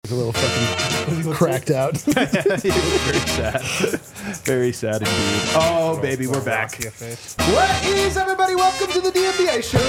a little fucking cracked out. He was very sad. Very sad indeed. Oh, baby, we're back. What is, everybody? Welcome to the DNVR show.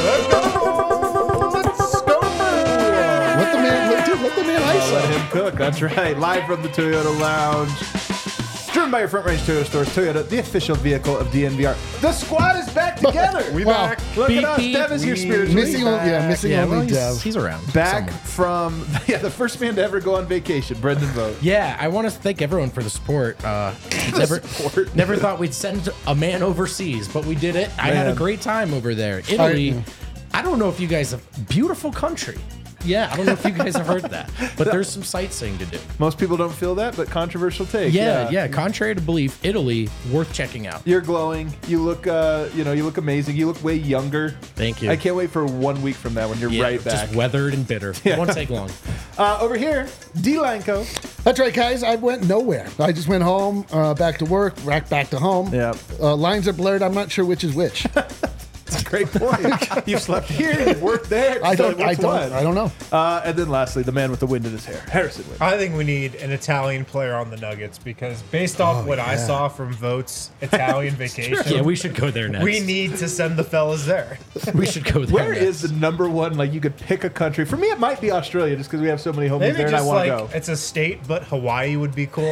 Let's go. Let the man ice Let up. him cook. That's right. Live from the Toyota Lounge. Driven by your Front Range Toyota stores. Toyota, the official vehicle of DNVR. The squad is back together. We back. Look Beep, at us. beep. Dev is here spiritually. Missing only Dev. He's around. Back somewhere. from the first man to ever go on vacation, Brendan Vogt. Yeah, I want to thank everyone for the support. Support. Never thought we'd send a man overseas, but we did it. I had a Man. great time over there. Italy, I don't know if you guys have beautiful country. Yeah, I don't know if you guys have heard that, but there's some sightseeing to do. Most people don't feel that, but controversial take. Yeah. Contrary to belief, Italy worth checking out. You're glowing. You look, you look amazing. You look way younger. Thank you. I can't wait for 1 week from now when you're right back. Just weathered and bitter. It won't take long. Over here, D. Lanco. That's right, guys. I went nowhere. I just went home, back to work, back to home. Yeah. Lines are blurred. I'm not sure which is which. That's a great point. You've slept here, you've worked there. I So don't which one? know. And then lastly, the man with the wind in his hair, Harrison Wind. I think we need an Italian player on the Nuggets because based off what I saw from Vogt's Italian vacation, Yeah, we should go there next. we need to send the fellas there. We should go there Where next. is the number one? Like you could pick a country. For me, it might be Australia, just because we have so many homies Maybe there, and I just want like to go. it's a state, but Hawaii would be cool.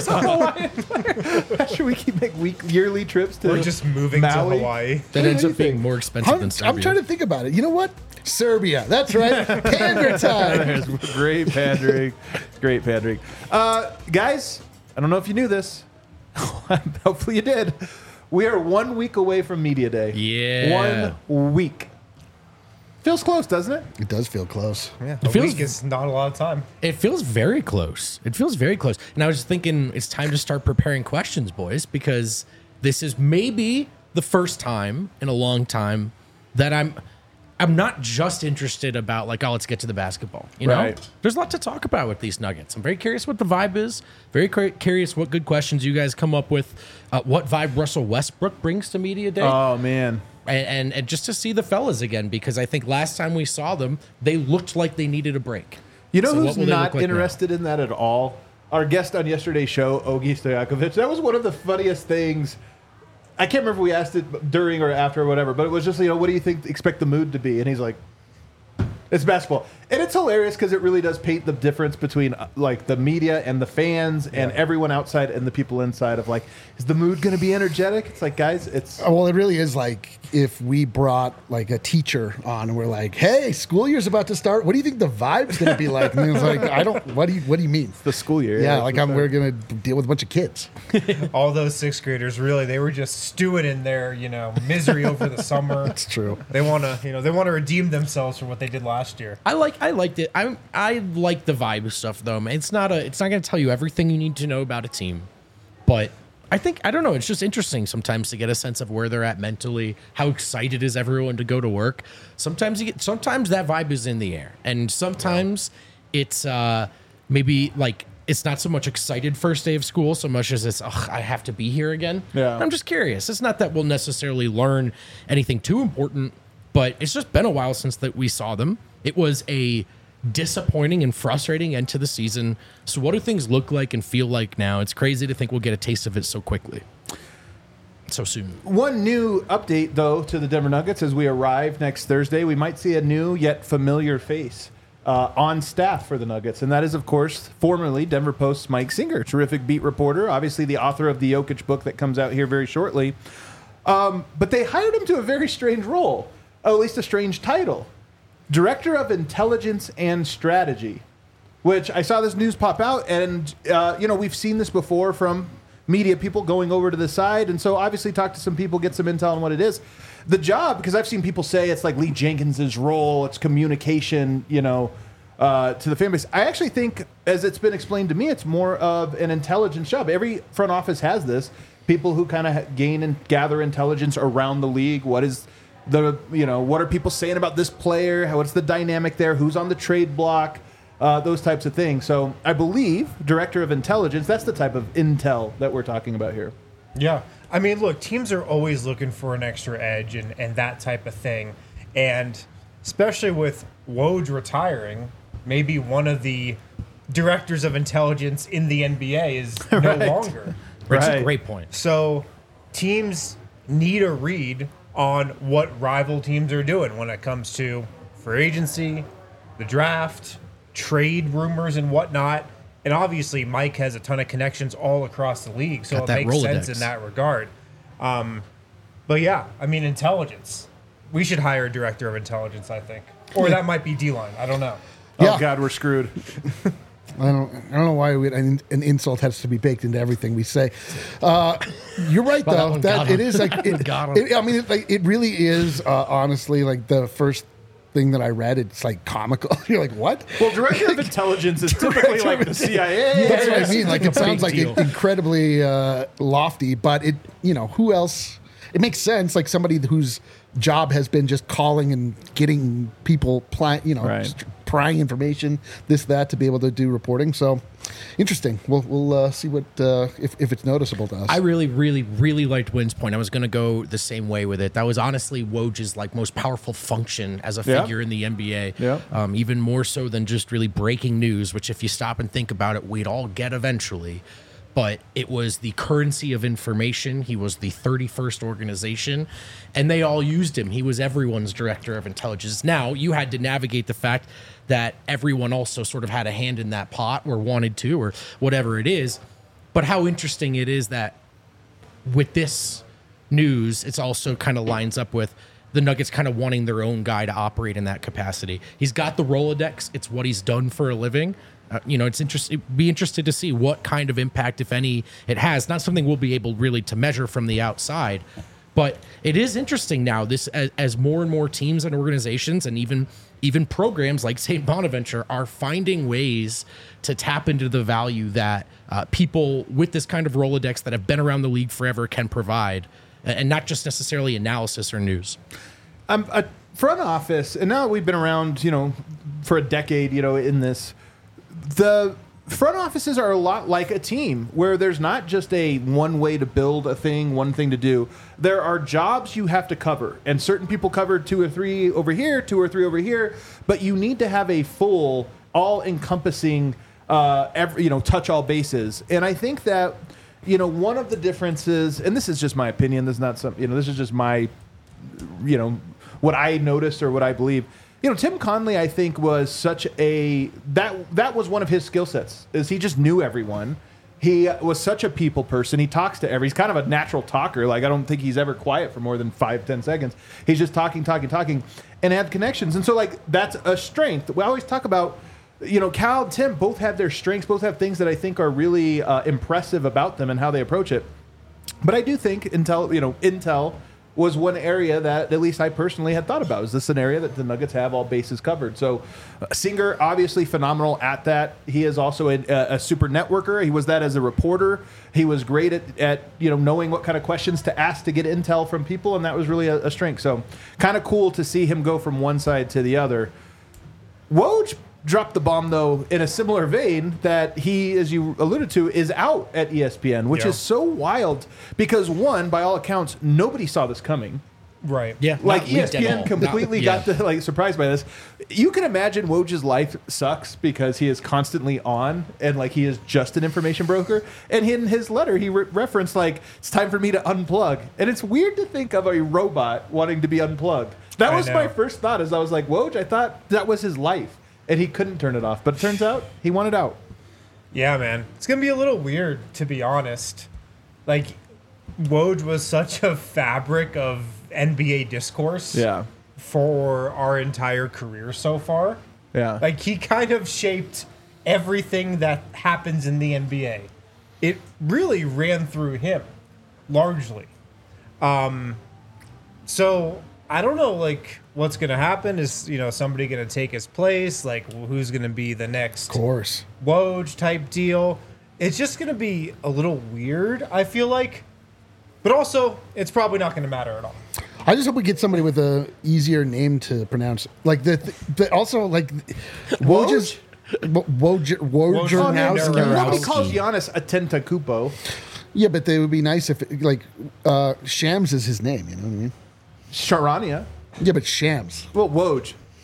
Should we keep make yearly trips to? We're just moving to Maui? Hawaii. That ends up being Anything. more expensive than Serbia. I'm trying to think about it. You know what? Serbia. That's right. Pander time. There's great pandering. Great pandering. Guys, I don't know if you knew this. Hopefully you did. We are 1 week away from Media Day. Yeah. 1 week. Feels close, doesn't it? It does feel close. Yeah, It a feels- week is not a lot of time. It feels very close. It feels very close. And I was just thinking it's time to start preparing questions, boys, because this is maybe the first time in a long time that I'm not just interested about like, oh, let's get to the basketball. You know, Right. there's a lot to talk about with these Nuggets. I'm very curious what the vibe is. Very curious what good questions you guys come up with. What vibe Russell Westbrook brings to Media Day. Oh, man. And just to see the fellas again, because I think last time we saw them, they looked like they needed a break. You know So what who's will they not look like now? interested in that at all? Our guest on yesterday's show, Ogi Stojakovic. That was one of the funniest things. I can't remember if we asked it during or after or whatever, but it was just, what do you expect the mood to be? And he's like, it's basketball. And it's hilarious because it really does paint the difference between like the media and the fans and everyone outside and the people inside of like, is the mood going to be energetic? It's like, guys, it's... Well, it really is like if we brought like a teacher on and we're like, hey, school year's about to start. What do you think the vibe's going to be like? And it's like, what do you mean? the school year. Yeah, like we're going to deal with a bunch of kids. All those sixth graders, really, they were just stewing in their, misery over the summer. It's true. They want to, redeem themselves for what they did last year. I liked it. I like the vibe stuff though, man. It's not going to tell you everything you need to know about a team, but I don't know. It's just interesting sometimes to get a sense of where they're at mentally. How excited is everyone to go to work? Sometimes that vibe is in the air, and sometimes it's maybe like it's not so much excited first day of school so much as it's I have to be here again. Yeah. I'm just curious. It's not that we'll necessarily learn anything too important, but it's just been a while since that we saw them. It was a disappointing and frustrating end to the season. So what do things look like and feel like now? It's crazy to think we'll get a taste of it so quickly, so soon. One new update, though, to the Denver Nuggets as we arrive next Thursday. We might see a new yet familiar face on staff for the Nuggets, and that is, of course, formerly Denver Post's Mike Singer, terrific beat reporter, obviously the author of the Jokic book that comes out here very shortly. But they hired him to a very strange role, at least a strange title. Director of Intelligence and Strategy, which I saw this news pop out, and we've seen this before from media people going over to the side, and so obviously talk to some people, get some intel on what it is. The job, because I've seen people say it's like Lee Jenkins's role, it's communication, to the fan base. I actually think, as it's been explained to me, it's more of an intelligence job. Every front office has this. People who kind of gain and gather intelligence around the league. What is what are people saying about this player? What's the dynamic there? Who's on the trade block? Those types of things. So I believe Director of Intelligence, that's the type of intel that we're talking about here. Yeah. I mean, look, teams are always looking for an extra edge and that type of thing. And especially with Woj retiring, maybe one of the directors of intelligence in the NBA is no longer. That's a Right. great point. So teams need a read on what rival teams are doing when it comes to free agency, the draft, trade rumors and whatnot. And obviously Mike has a ton of connections all across the league, so Got it that makes Rolodex. sense in that regard. But yeah, I mean, intelligence. We should hire a director of intelligence, I think. Or that might be D-line. I don't know. Yeah. Oh God, we're screwed. I don't know why an insult has to be baked into everything we say. You're right Well, that though. one That got it him. is like it, Got him. I mean, it really is honestly like the first thing that I read. It's like comical. You're like, what? Well, director of intelligence is typically like the CIA. That's what I mean. Like it sounds like deal. incredibly lofty, but it, who else? It makes sense. Like somebody whose job has been just calling and getting people, Right. just prying information, this, that, to be able to do reporting. So interesting. We'll see what if it's noticeable to us. I really, really, really liked Wynn's point. I was going to go the same way with it. That was honestly Woj's like most powerful function as a Yeah. figure in the NBA. Yeah. Even more so than just really breaking news, which if you stop and think about it, we'd all get eventually. But it was the currency of information. He was the 31st organization, and they all used him. He was everyone's director of intelligence. Now, you had to navigate the fact that everyone also sort of had a hand in that pot or wanted to or whatever it is. But how interesting it is that with this news, it's also kind of lines up with the Nuggets kind of wanting their own guy to operate in that capacity. He's got the Rolodex. It's what he's done for a living. It's interesting. Be interested to see what kind of impact, if any, it has. Not something we'll be able really to measure from the outside, but it is interesting now. This as more and more teams and organizations, and even programs like St. Bonaventure are finding ways to tap into the value that people with this kind of Rolodex that have been around the league forever can provide, and not just necessarily analysis or news. A front office, and now that we've been around, for a decade, in this, the front offices are a lot like a team where there's not just a one way to build a thing, one thing to do. There are jobs you have to cover, and certain people cover 2 or 3 over here, 2 or 3 over here, but you need to have a full, all-encompassing, touch all bases. And I think that, one of the differences, and this is just my opinion, this is not some, this is just my, what I noticed or what I believe. Tim Conley, I think, was such that was one of his skill sets, is he just knew everyone. He was such a people person. He talks to he's kind of a natural talker. Like, I don't think he's ever quiet for more than 5-10 seconds. He's just talking, and had connections. And so, like, that's a strength. We always talk about, Cal and Tim both have their strengths, both have things that I think are really impressive about them and how they approach it. But I do think Intel was one area that at least I personally had thought about. Is this an area that the Nuggets have all bases covered? So Singer, obviously phenomenal at that. He is also a super networker. He was that as a reporter. He was great at knowing what kind of questions to ask to get intel from people, and that was really a strength. So kind of cool to see him go from one side to the other. Woj dropped the bomb, though, in a similar vein, that he, as you alluded to, is out at ESPN, which is so wild because, one, by all accounts, nobody saw this coming. Right. Yeah, Like, not leaked at ESPN all. completely got surprised by this. You can imagine Woj's life sucks because he is constantly on, and like he is just an information broker. And in his letter, he referenced like, it's time for me to unplug. And it's weird to think of a robot wanting to be unplugged. That was my first thought, as I was like, Woj, I thought that was his life. And he couldn't turn it off. But it turns out he wanted out. Yeah, man. It's going to be a little weird, to be honest. Like, Woj was such a fabric of NBA discourse for our entire career so far. Yeah. Like, he kind of shaped everything that happens in the NBA. It really ran through him, largely. So, I don't know, like, what's going to happen. Is, somebody going to take his place? Like, who's going to be the next course. Woj type deal? It's just going to be a little weird, I feel like. But also, it's probably not going to matter at all. I just hope we get somebody with a easier name to pronounce. Like also like Woj's Wojnarowski. Nobody calls Giannis Antetokounmpo. Yeah, but they would be nice if Shams is his name. You know what I mean? Charania. Yeah, but Shams. Well, Woj.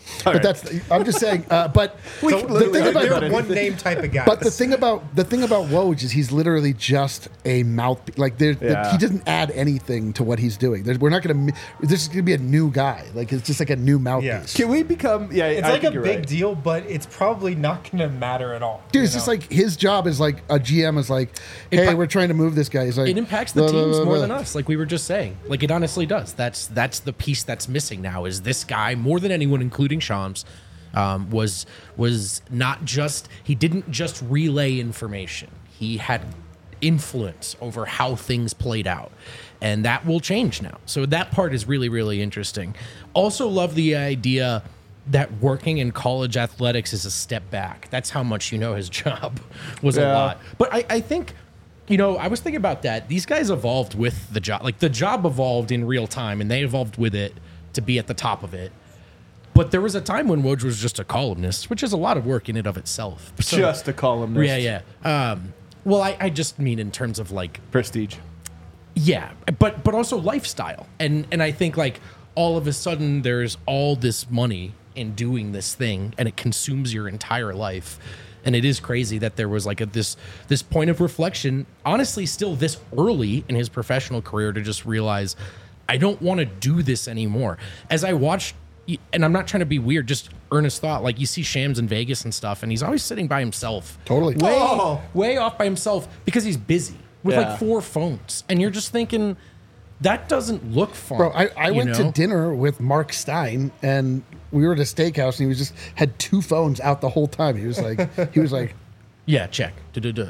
But I'm just saying. But We the can thing literally about argue about They're one name type of guys. But the thing about Woj is he's literally just a mouth. Like he doesn't add anything to what he's doing. We're not going to. This is going to be a new guy. Like it's just like a new mouthpiece. Can we become? Yeah, it's I like a think you're big right. deal, but it's probably not going to matter at all. Dude, it's just like his job is like a GM is like, hey, we're trying to move this guy. He's like, It impacts the teams more than us, like we were just saying. Like it honestly does. That's the piece that's missing now. Is this guy more than anyone, including Shams, was not just he didn't just relay information. He had influence over how things played out, and that will change now. So that part is really, really interesting. Also, love the idea that working in college athletics is a step back. That's how much his job was a lot. But I think. I was thinking about that. These guys evolved with the job. Like, the job evolved in real time, and they evolved with it to be at the top of it. But there was a time when Woj was just a columnist, which is a lot of work in and of itself. So, Just a columnist. Yeah. Well, I just mean in terms of, like... Prestige. Yeah, but also lifestyle. And I think, like, all of a sudden there's all this money in doing this thing, and it consumes your entire life. And it is crazy that there was like this point of reflection, honestly, still this early in his professional career, to just realize I don't want to do this anymore. As I watched, and I'm not trying to be weird, just earnest thought. Like you see Shams in Vegas and stuff, and he's always sitting by himself, Totally. way off by himself because he's busy with like 4 phones, and you're just thinking that doesn't look fun. Bro, I went to dinner with Mark Stein, and we were at a steakhouse, and he just had 2 phones out the whole time. He was like, yeah, check. like,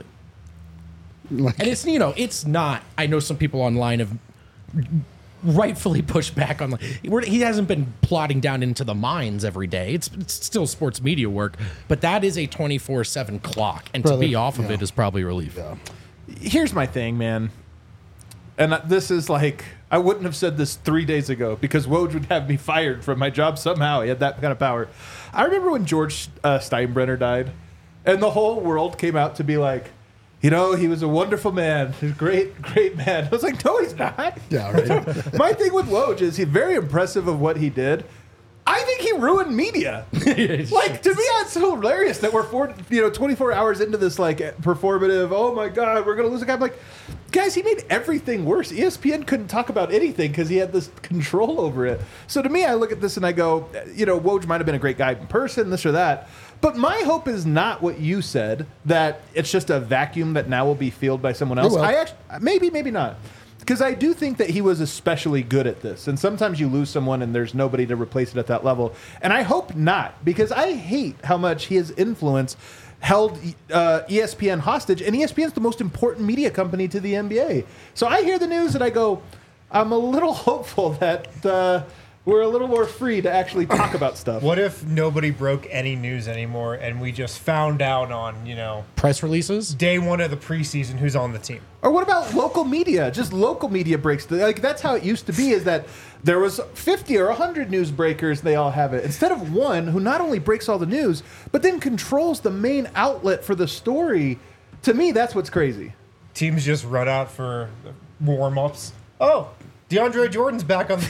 And it's it's not. I know some people online have rightfully pushed back on. He hasn't been plodding down into the mines every day. It's still sports media work, but that is a 24/7 clock, and to be off of it is probably relief. Yeah. Here's my thing, man. And this is like, I wouldn't have said this 3 days ago because Woj would have me fired from my job somehow. He had that kind of power. I remember when George Steinbrenner died, and the whole world came out to be like, he was a wonderful man. He's a great, great man. I was like, no, he's not. Yeah, right. My thing with Woj is he's very impressive of what he did. I think he ruined media. Like, to me, that's so hilarious that we're 24 hours into this, like, performative, oh my God, we're going to lose a guy. I'm like, guys, he made everything worse. ESPN couldn't talk about anything because he had this control over it. So to me, I look at this and I go, Woj might have been a great guy in person, this or that. But my hope is not what you said, that it's just a vacuum that now will be filled by someone else. Maybe not. Because I do think that he was especially good at this. And sometimes you lose someone and there's nobody to replace it at that level. And I hope not, because I hate how much his influence held ESPN hostage. And ESPN is the most important media company to the NBA. So I hear the news and I go, I'm a little hopeful that we're a little more free to actually talk about stuff. What if nobody broke any news anymore and we just found out on, Press releases? day 1 of the preseason who's on the team? Or what about local media? Just local media breaks. That's how it used to be, is that there was 50 or 100 newsbreakers. They all have it. Instead of one who not only breaks all the news, but then controls the main outlet for the story. To me, that's what's crazy. Teams just run out for warm-ups. Oh, DeAndre Jordan's back on the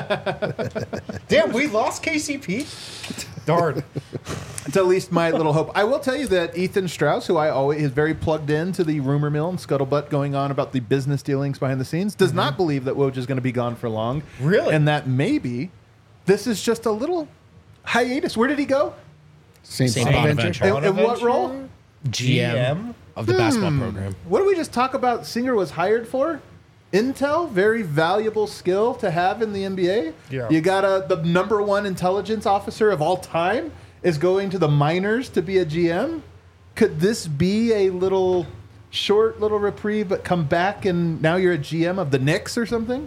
team. Damn, we lost KCP? Darn. It's at least my little hope. I will tell you that Ethan Strauss, who I always is very plugged into the rumor mill and scuttlebutt going on about the business dealings behind the scenes, does not believe that Woj is going to be gone for long. Really? And that maybe this is just a little hiatus. Where did he go? St. Bonaventure. Bonaventure. In what role? GM of the basketball program. What did we just talk about Singer was hired for? Intel, very valuable skill to have in the NBA. Yeah. You got the #1 intelligence officer of all time is going to the minors to be a GM. Could this be a short little reprieve, but come back and now you're a GM of the Knicks or something?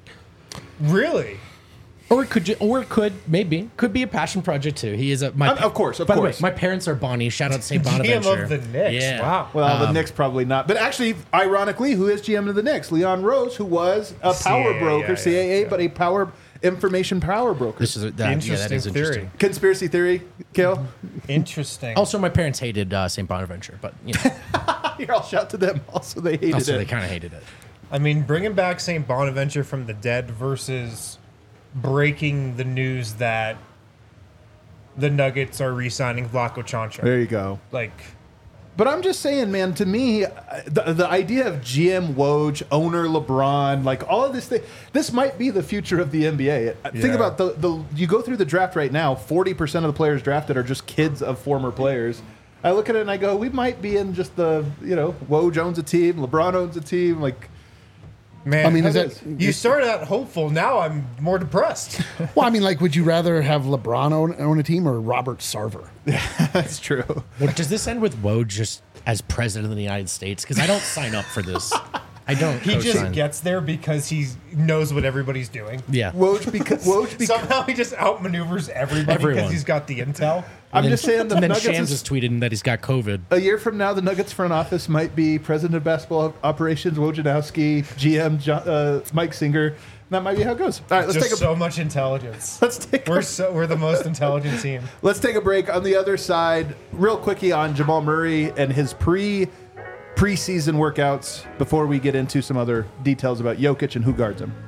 Really? Or it could be a passion project too. He is of course. By the way, my parents are Bonnie. Shout out St. Bonaventure. GM of the Knicks. Yeah. Wow. Well, the Knicks probably not. But actually, ironically, who is GM of the Knicks? Leon Rose, who was a power broker, CAA, but a information power broker. This is that is interesting. Theory. Conspiracy theory, Kale? Interesting. Also, my parents hated St. Bonaventure, but Here, I'll shout to them. Also, they hated also it. they kind of hated it. I mean, bringing back St. Bonaventure from the dead versus breaking the news that the Nuggets are re-signing Vlatko Čančar. There you go. Like, But I'm just saying, man, to me, the idea of GM Woj, owner LeBron, like all of this thing, this might be the future of the NBA. Think about you go through the draft right now, 40% of the players drafted are just kids of former players. I look at it and I go, we might be in just Woj owns a team, LeBron owns a team, like. man, I mean, is that you started out hopeful. Now I'm more depressed. well? I mean, like, would you rather have LeBron own a team or Robert Sarver? That's true. Well, does this end with Woj just as president of the United States? Because I don't sign up for this. I don't. He just co-sign. gets there because he knows what everybody's doing. Yeah. Woj because Somehow he just outmaneuvers everybody Everyone. because he's got the intel. I'm just saying the And then Nuggets Shams has tweeted that he's got COVID. a year from now, the Nuggets front office might be president of basketball operations Wojnarowski, GM Mike Singer. That might be how it goes. All right, let's Just take a so much intelligence. we're We're the most intelligent team. Let's take a break. On the other side, real quickie on Jamal Murray and his preseason workouts before we get into some other details about Jokic and who guards him.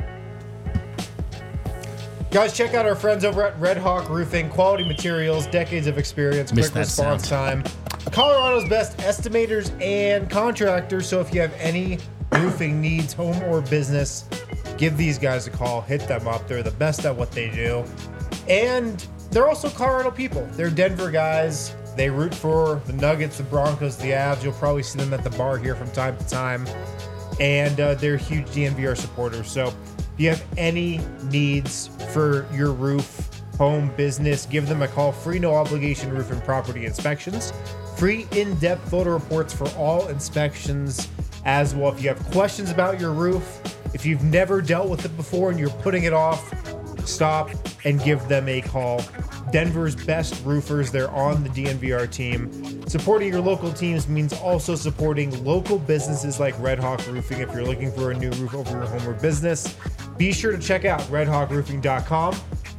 Guys, check out our friends over at Red Hawk Roofing. Quality materials, decades of experience, Missed quick that response time. Colorado's best estimators and contractors. So if you have any roofing needs, home or business, give these guys a call. Hit them up. They're the best at what they do. And they're also Colorado people. They're Denver guys. They root for the Nuggets, the Broncos, the Avs. You'll probably see them at the bar here from time to time. And they're huge DNVR supporters. So if you have any needs for your roof, home, business, give them a call. Free, no obligation roof and property inspections. Free in-depth photo reports for all inspections as well. If you have questions about your roof, if you've never dealt with it before and you're putting it off, stop and give them a call. Denver's best roofers, they're on the DNVR team. Supporting your local teams means also supporting local businesses like Red Hawk Roofing. If you're looking for a new roof over your home or business, be sure to check out redhawkroofing.com,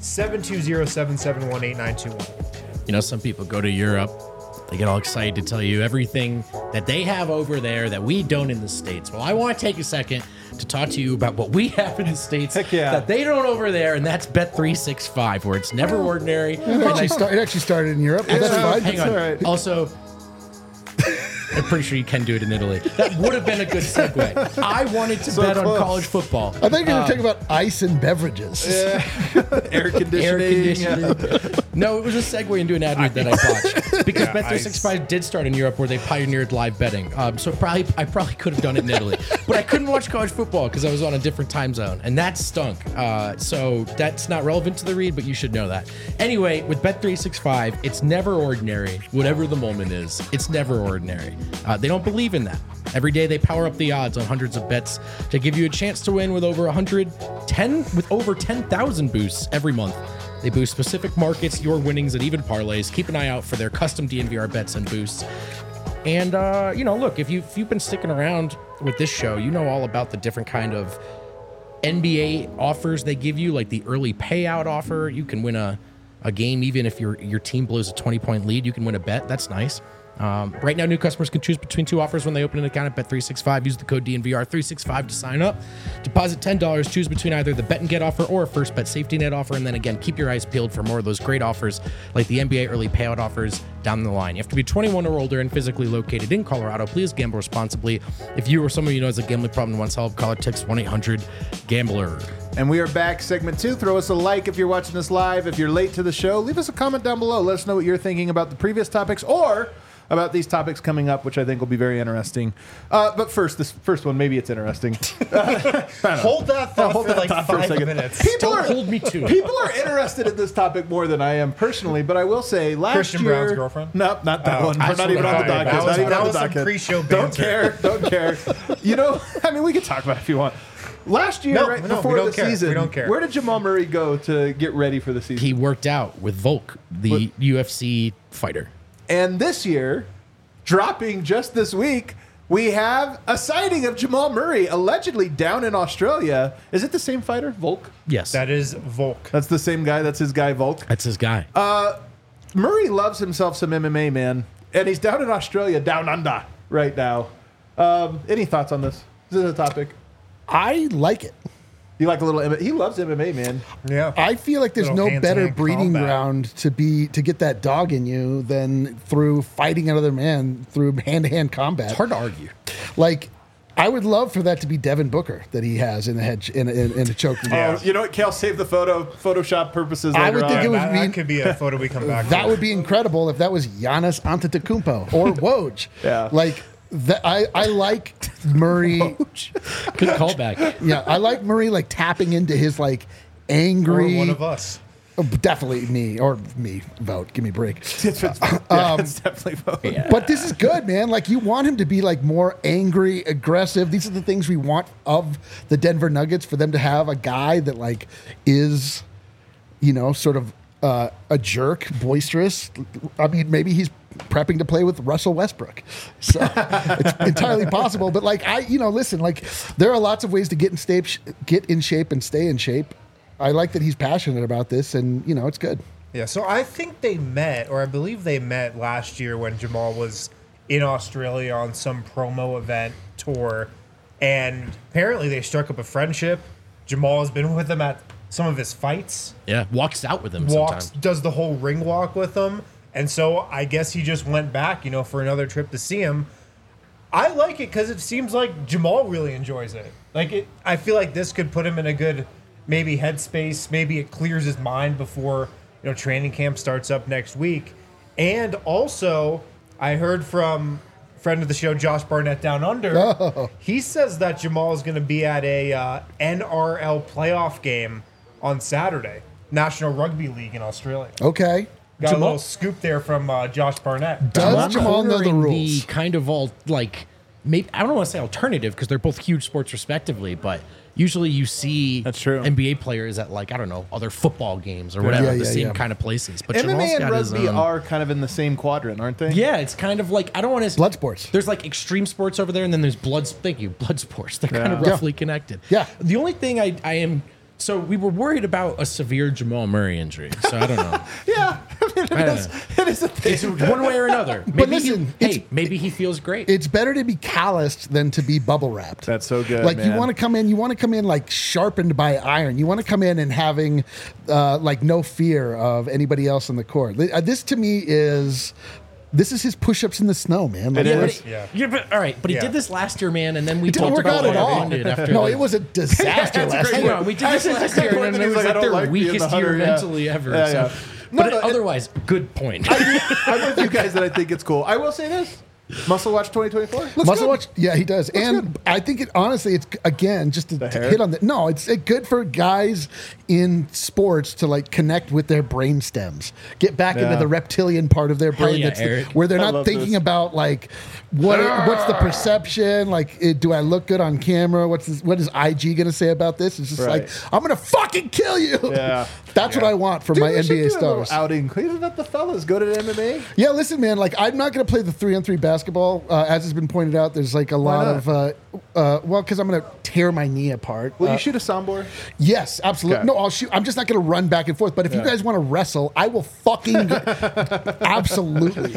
720-771-8921. You know, some people go to Europe, they get all excited to tell you everything that they have over there that we don't in the States. Well, I want to take a second to talk to you about what we have in the States Heck yeah. that they don't over there, and that's Bet365, where it's never ordinary. It actually started in Europe. But that's fine. Hang on. all right. Also, I'm pretty sure you can do it in Italy. That would have been a good segue. I wanted to bet close. on college football. I think you're going to talk about ice and beverages. Air conditioning. Air conditioning. No, it was a segue into an ad read that I botched because Bet365 did start in Europe where they pioneered live betting. So I probably could have done it in Italy, but I couldn't watch college football because I was on a different time zone, and that stunk. So that's not relevant to the read, but you should know that. Anyway, with Bet365, it's never ordinary. Whatever the moment is, it's never ordinary. They don't believe in that. Every day they power up the odds on hundreds of bets to give you a chance to win with over 10,000 boosts every month. They boost specific markets, your winnings, and even parlays. Keep an eye out for their custom DNVR bets and boosts. And, look, if you've been sticking around with this show, you know all about the different kind of NBA offers they give you, like the early payout offer. You can win a game even if your team blows a 20-point lead. You can win a bet. That's nice. Right now, new customers can choose between two offers when they open an account at Bet365. Use the code DNVR365 to sign up. Deposit $10. Choose between either the bet and get offer or a first bet safety net offer. And then again, keep your eyes peeled for more of those great offers like the NBA early payout offers down the line. You have to be 21 or older and physically located in Colorado. Please gamble responsibly. If you or someone you know has a gambling problem and wants help, call or text 1-800-GAMBLER. And we are back, segment 2. Throw us a like if you're watching this live. If you're late to the show, leave us a comment down below. Let us know what you're thinking about the previous topics or about these topics coming up, which I think will be very interesting. But first, this first one, maybe it's interesting. Hold that thought for like 5 minutes. Don't hold me to it. People are interested in this topic more than I am personally, but I will say last Christian year... Brown's girlfriend? Nope, not that one. We're not even on the docket. That was- Not even that on the was some docket. pre-show Don't banter. care. You know, I mean, we can talk about it if you want. Last year, No, right no, before we don't the care. season, We don't care. where did Jamal Murray go to get ready for the season? He worked out with Volk, the UFC fighter. And this year, dropping just this week, we have a sighting of Jamal Murray allegedly down in Australia. Is it the same fighter, Volk? Yes. That is Volk. That's the same guy. That's his guy, Volk. That's his guy. Murray loves himself some MMA, man. And he's down in Australia, down under, right now. Any thoughts on this? Is this a topic? I like it. You like a little MMA? He loves MMA, man. Yeah. I feel like there's Little no better hand-to-hand breeding combat. ground to get that dog in you than through fighting another man through hand-to-hand combat. It's hard to argue. Like, I would love for that to be Devin Booker that he has in the head in a choke. Oh, you know what? Kale, save the Photoshop purposes. I later would think on. it would that, be- that could be a photo we come back to. That would be incredible if that was Giannis Antetokounmpo or Woj. Yeah. Like that. I like Murray. Good callback. Yeah, I like Murray like tapping into his like Or angry. one of us. Oh, definitely me or me. Vote. Give me a break. It's definitely both. But this is good, man. Like you want him to be like more angry, aggressive. These are the things we want of the Denver Nuggets, for them to have a guy that like is, sort of a jerk, boisterous. I mean, maybe he's prepping to play with Russell Westbrook. So it's entirely possible. But like listen, like there are lots of ways to get in shape and stay in shape. I like that he's passionate about this, and it's good. Yeah, so I think they met, or I believe they met last year when Jamal was in Australia on some promo event tour, and apparently they struck up a friendship. Jamal has been with him at some of his fights, Yeah, walks out with him walks, sometimes. does the whole ring walk with him, and so I guess he just went back, for another trip to see him. I like it because it seems like Jamal really enjoys it. I feel like this could put him in a good maybe headspace. Maybe it clears his mind before training camp starts up next week. And also, I heard from friend of the show Josh Barnett down under. Oh. He says that Jamal is going to be at a NRL playoff game on Saturday, National Rugby League in Australia. Okay. Got a Jamal- little scoop there from Josh Barnett. Does Jamal know the Cornering rules? The kind of all like, maybe I don't want to say alternative because they're both huge sports respectively, but usually you see That's true. NBA players at like I don't know other football games or whatever, the same kind of places. But Jamal's MMA and got his rugby own- are kind of in the same quadrant, aren't they? Yeah, it's kind of like I don't want to Blood sports. There's like extreme sports over there, and then there's blood sports. They're kind of Yeah. roughly connected. Yeah. The only thing I am so we were worried about a severe Jamal Murray injury. So I don't know. Yeah. I don't know. It is a thing. It's one way or another. Maybe listen, maybe he feels great. It's better to be calloused than to be bubble wrapped. That's so good, Like man. you want to come in like sharpened by iron. You want to come in and having like no fear of anybody else on the court. This to me is his push-ups in the snow, man. Like, It yeah, is. but Yeah. yeah, but all right. But he Yeah. did this last year, man, and then we it didn't talked work about out at what all. everyone did after. No, like- it was a disaster That's a last great year. Hang on, we did this Actually, last it's a year, great and then point it that was he's like, I like don't their like being the weakest year hunter, yeah. mentally ever. Yeah, so. yeah. But No, otherwise, good point. I'm with you guys that I think it's cool. I will say this. Muscle Watch 2024. Looks Muscle good. Watch, yeah, he does, and I think it honestly, it's again just to hair? hit on the. No, it's good for guys in sports to like connect with their brain stems, get back into Yeah. the reptilian part of their Hell brain yeah, that's Eric. where they're I not love thinking this. about like what's the perception, like do I look good on camera? What is IG gonna say about this? It's just Right. like I'm gonna fucking kill you. Yeah. That's what I want from Dude, my we should NBA do a little stars. outing. Isn't that the fellas? Go to the MMA. Yeah, listen, man. Like, I'm not going to play the 3-on-3 basketball. As has been pointed out, there's like a lot not? of well, because I'm going to tear my knee apart. Will you shoot a soundboard? Yes, absolutely. Okay. No, I'll shoot. I'm just not going to run back and forth. But if you guys want to wrestle, I will fucking absolutely.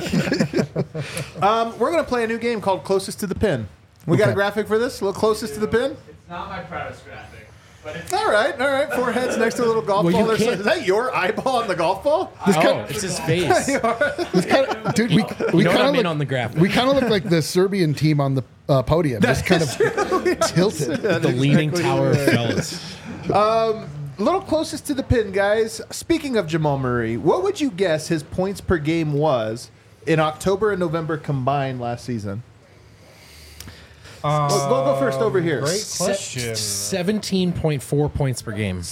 We're going to play a new game called Closest to the Pin. We got a Okay. graphic for this? A little closest to the pin? It's not my proudest graphic, but it's All right. Four heads next to a little golf Well, you ball. can't- Is that your eyeball on the golf ball? Oh, it's his face. Dude, we You know kind what? of I'm in look, on the graphic. we kind of look like the Serbian team on the podium, just kind of tilted. The Leaning Tower of Fellas. A little closest to the pin, guys. Speaking of Jamal Murray, what would you guess his points per game was in October and November combined last season? We'll go first over here. Great question. 17.4 points per game.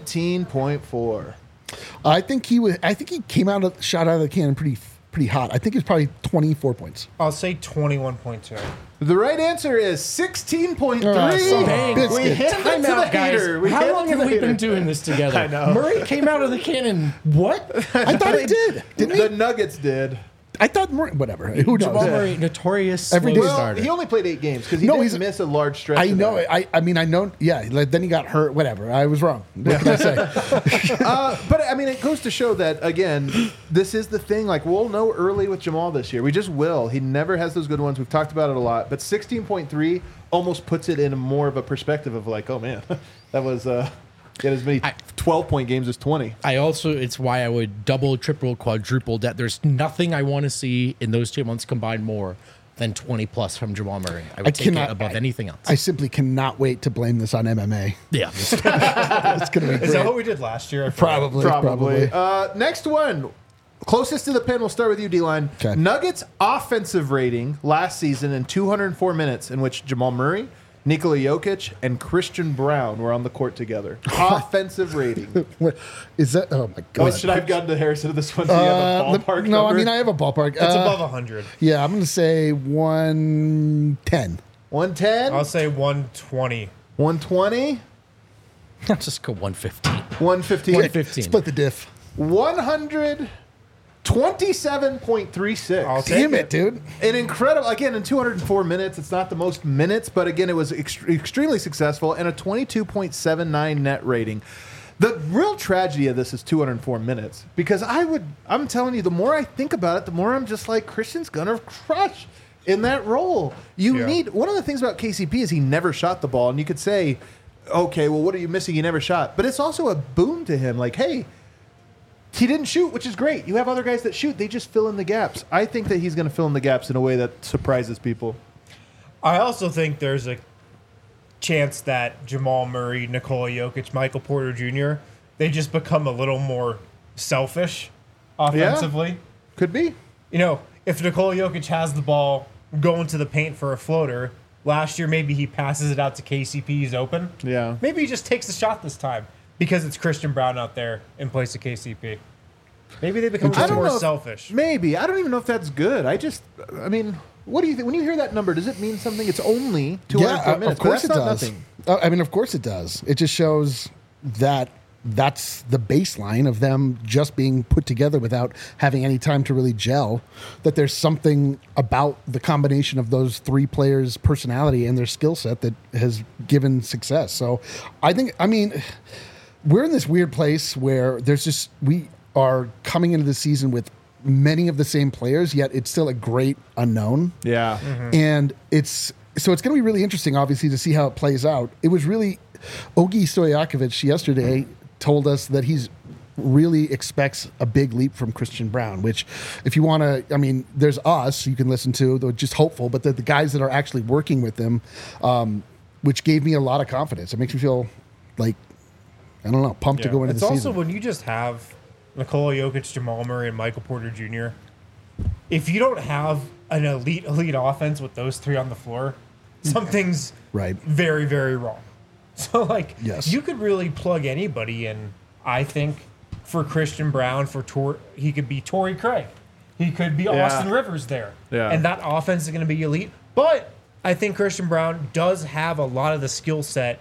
17.4. I think he came shot out of the cannon pretty hot. I think it's probably 24 points. I'll say 21.2. The right answer is 16.3. son of a Dang. biscuit. We hit Time it to out, the guys. hater. We hit How it long to have the we been hater. doing this together? I know. Murray came out of the cannon. What? I thought he did. Didn't he? The Nuggets did. I thought more. Whatever. Who knows? Jamal Murray, notorious Every slow day- Well, starter. he only played 8 games because he No, didn't he's- miss a large stretch. I of know. that. I mean, I know. Yeah. Like, then he got hurt. Whatever. I was wrong. What can I say? But I mean, it goes to show that again, this is the thing. Like we'll know early with Jamal this year. We just will. He never has those good ones. We've talked about it a lot. But 16.3 almost puts it in more of a perspective of like, oh man, that was he had as many 12-point games as 20. I also, it's why I would double, triple, quadruple that. There's nothing I want to see in those 2 months combined more than 20 plus from Jamal Murray. I would take it above anything else. I simply cannot wait to blame this on MMA. yeah. It's going to be Is that great. what we did last year? I forgot. Probably. Next one. Closest to the pin, we'll start with you, D-Line. Okay. Nuggets offensive rating last season in 204 minutes in which Jamal Murray, Nikola Jokic, and Christian Brown were on the court together. Offensive rating. What is that? Oh my Oh, god! should I have gotten to Harrison to this one? Do you have a ballpark no, I number? mean I have a ballpark. It's above 100. Yeah, I'm going to say 110. 110, I'll say 120. 120, I'll just go 115. 115, 115. Split the diff. 127.36. I'll take Damn it, dude. An incredible, again, in 204 minutes, it's not the most minutes, but again, it was extremely successful and a 22.79 net rating. The real tragedy of this is 204 minutes because I'm telling you, the more I think about it, the more I'm just like, Christian's gonna crush in that role. You need, one of the things about KCP is he never shot the ball, and you could say, okay, well, what are you missing? He never shot. But it's also a boon to him. Like, hey, he didn't shoot, which is great. You have other guys that shoot. They just fill in the gaps. I think that he's going to fill in the gaps in a way that surprises people. I also think there's a chance that Jamal Murray, Nikola Jokic, Michael Porter Jr., they just become a little more selfish offensively. Could be. You know, if Nikola Jokic has the ball going to the paint for a floater, last year maybe he passes it out to KCP, he's open. Yeah. Maybe he just takes the shot this time because it's Christian Brown out there in place of KCP. Maybe they become just more selfish. Maybe. I don't even know if that's good. I mean, what do you think? When you hear that number, does it mean something? It's only 204 minutes. Of course but it that's not does. nothing. I mean, of course it does. It just shows that that's the baseline of them just being put together without having any time to really gel. That there's something about the combination of those three players' personality and their skill set that has given success. So I mean, we're in this weird place where we are coming into the season with many of the same players, yet it's still a great unknown. Yeah. And it's going to be really interesting, obviously, to see how it plays out. It was really Ogi Stojakovic yesterday told us that he's really expects a big leap from Christian Brown, which if you want to, I mean, there's us you can listen to, they're just hopeful, but the guys that are actually working with them, which gave me a lot of confidence. It makes me feel like, I don't know, pumped to go into It's the also season. when you just have Nikola Jokic, Jamal Murray, and Michael Porter Jr., if you don't have an elite offense with those three on the floor, something's Right. very, very wrong. So, like, Yes. you could really plug anybody in, I think, for Christian Brown, he could be Torrey Craig. He could be Austin Rivers there. Yeah. And that offense is going to be elite. But I think Christian Brown does have a lot of the skill set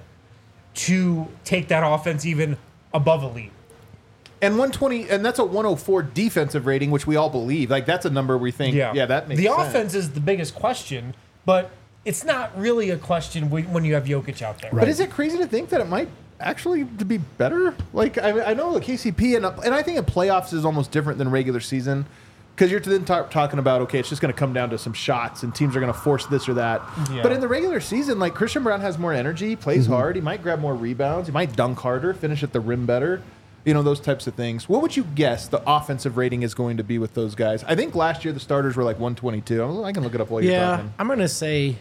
to take that offense even above elite. And 120, and that's a 104 defensive rating, which we all believe. Like, that's a number we think, yeah, that makes the sense. offense is the biggest question, but it's not really a question when you have Jokic out there. But is it crazy to think that it might actually be better? Like, I know the KCP, and I think in playoffs is almost different than regular season because you're then talking about, okay, it's just going to come down to some shots and teams are going to force this or that. Yeah. But in the regular season, like, Christian Brown has more energy, plays hard, he might grab more rebounds, he might dunk harder, finish at the rim better. You know, those types of things. What would you guess the offensive rating is going to be with those guys? I think last year the starters were like 122. I can look it up while you're talking. I'm going to say,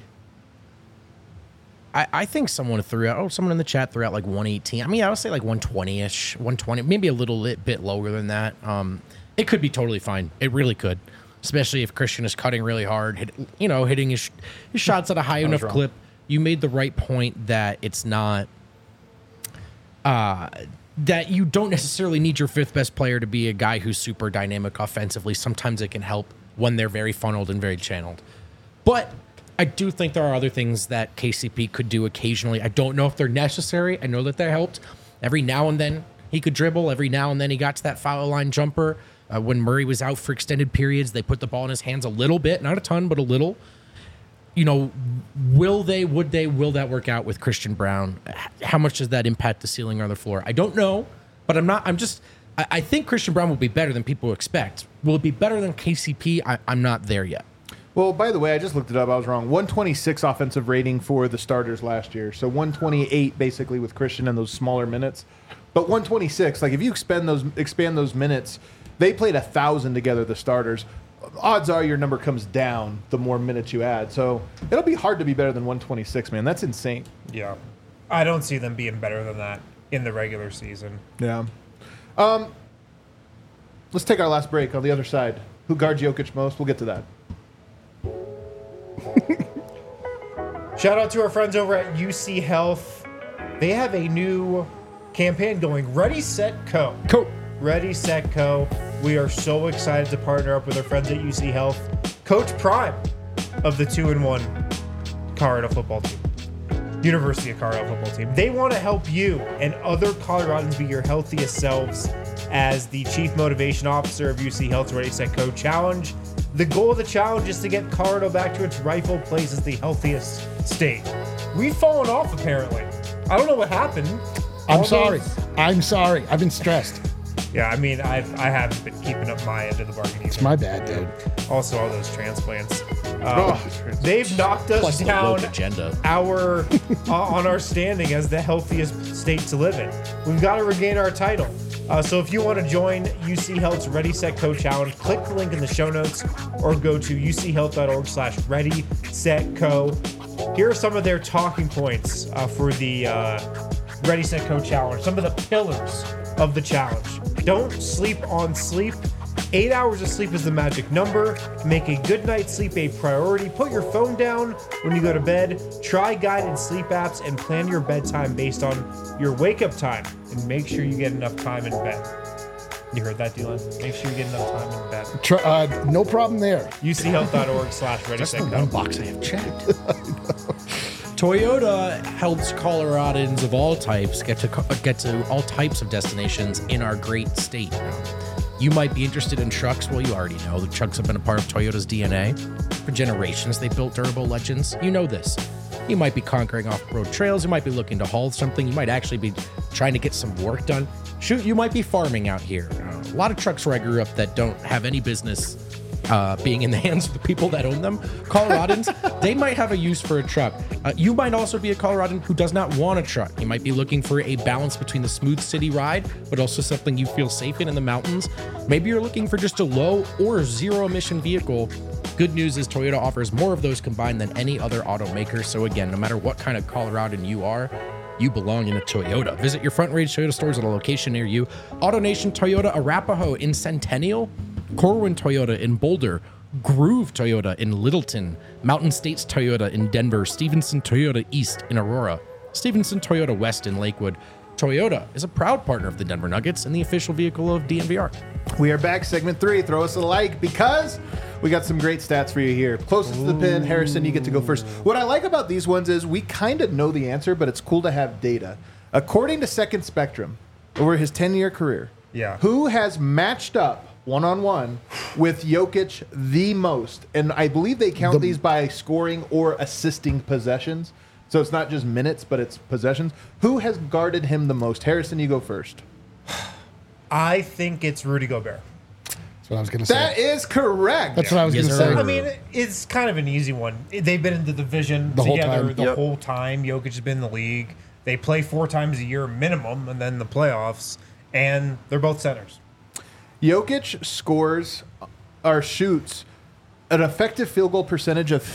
I think someone in the chat threw out like 118. I mean, I would say like 120-ish, 120, maybe a little bit lower than that. It could be totally fine. It really could, especially if Christian is cutting really hard, hitting his shots at a high enough clip. You made the right point that it's not that you don't necessarily need your fifth best player to be a guy who's super dynamic offensively. Sometimes it can help when they're very funneled and very channeled. But I do think there are other things that KCP could do occasionally. I don't know if they're necessary. I know that they helped. Every now and then he could dribble. Every now and then he got to that foul line jumper. When Murray was out for extended periods, they put the ball in his hands a little bit, not a ton, but a little. Will that work out with Christian Braun? How much does that impact the ceiling or the floor? I don't know, but I think Christian Braun will be better than people expect. Will it be better than KCP? I'm not there yet. Well, by the way, I just looked it up. I was wrong. 126 offensive rating for the starters last year. So 128 basically with Christian and those smaller minutes. But 126, like if you expand those minutes, they played 1,000 together, the starters. Odds are your number comes down the more minutes you add. So it'll be hard to be better than 126, man. That's insane. Yeah. I don't see them being better than that in the regular season. Yeah. Let's take our last break on the other side. Who guards Jokic most? We'll get to that. Shout out to our friends over at UC Health. They have a new campaign going, Ready, Set, Co. Ready, Set, Co. We are so excited to partner up with our friends at UC Health. Coach Prime of the 2-1 Colorado football team. University of Colorado football team. They want to help you and other Coloradans be your healthiest selves as the Chief Motivation Officer of UC Health's Ready, Set, Co. Challenge. The goal of the challenge is to get Colorado back to its rightful place as the healthiest state. We've fallen off, apparently. I don't know what happened. I'm sorry. I've been stressed. Yeah, I mean, I haven't been keeping up my end of the bargain either. It's my bad, dude. Also, all those transplants. They've knocked us Plus the down woke agenda. on our standing as the healthiest state to live in. We've got to regain our title. So if you want to join UC Health's Ready, Set, Co. Challenge, click the link in the show notes or go to uchealth.org/Ready, Set, Co. Here are some of their talking points for the Ready, Set, Co. Challenge. Some of the pillars of the challenge. Don't sleep on sleep. 8 hours of sleep is the magic number. Make a good night's sleep a priority. Put your phone down when you go to bed. Try guided sleep apps and plan your bedtime based on your wake-up time. And make sure you get enough time in bed. You heard that, Dylan? Make sure you get enough time in bed. No problem there. uchealth.org/Ready, Set, Co. Box I have checked. Toyota helps Coloradans of all types get to all types of destinations in our great state. You might be interested in trucks. Well, you already know the trucks have been a part of Toyota's DNA. For generations, they built durable legends. You know this. You might be conquering off-road trails. You might be looking to haul something. You might actually be trying to get some work done. Shoot, you might be farming out here. A lot of trucks where I grew up that don't have any business being in the hands of the people that own them. Coloradans, they might have a use for a truck. You might also be a Coloradan who does not want a truck. You might be looking for a balance between the smooth city ride, but also something you feel safe in the mountains. Maybe you're looking for just a low or zero emission vehicle. Good news is Toyota offers more of those combined than any other automaker. So again, no matter what kind of Coloradan you are, you belong in a Toyota. Visit your Front Range Toyota stores at a location near you. AutoNation Toyota Arapahoe in Centennial, Corwin Toyota in Boulder, Groove Toyota in Littleton, Mountain States Toyota in Denver, Stevenson Toyota East in Aurora, Stevenson Toyota West in Lakewood. Toyota is a proud partner of the Denver Nuggets and the official vehicle of DNVR. We are back, segment 3. Throw us a like because we got some great stats for you here. Closest to the pin, Harrison, you get to go first. What I like about these ones is we kind of know the answer, but it's cool to have data. According to Second Spectrum, over his 10-year career, who has matched up one-on-one with Jokic the most? And I believe they count these by scoring or assisting possessions. So it's not just minutes, but it's possessions. Who has guarded him the most? Harrison, you go first. I think it's Rudy Gobert. That's what I was going to say. That is correct. That's what I was going to say. I mean, it's kind of an easy one. They've been in the division together the whole time. Jokic has been in the league. They play 4 times a year minimum, and then the playoffs, and they're both centers. Jokic scores or shoots an effective field goal percentage of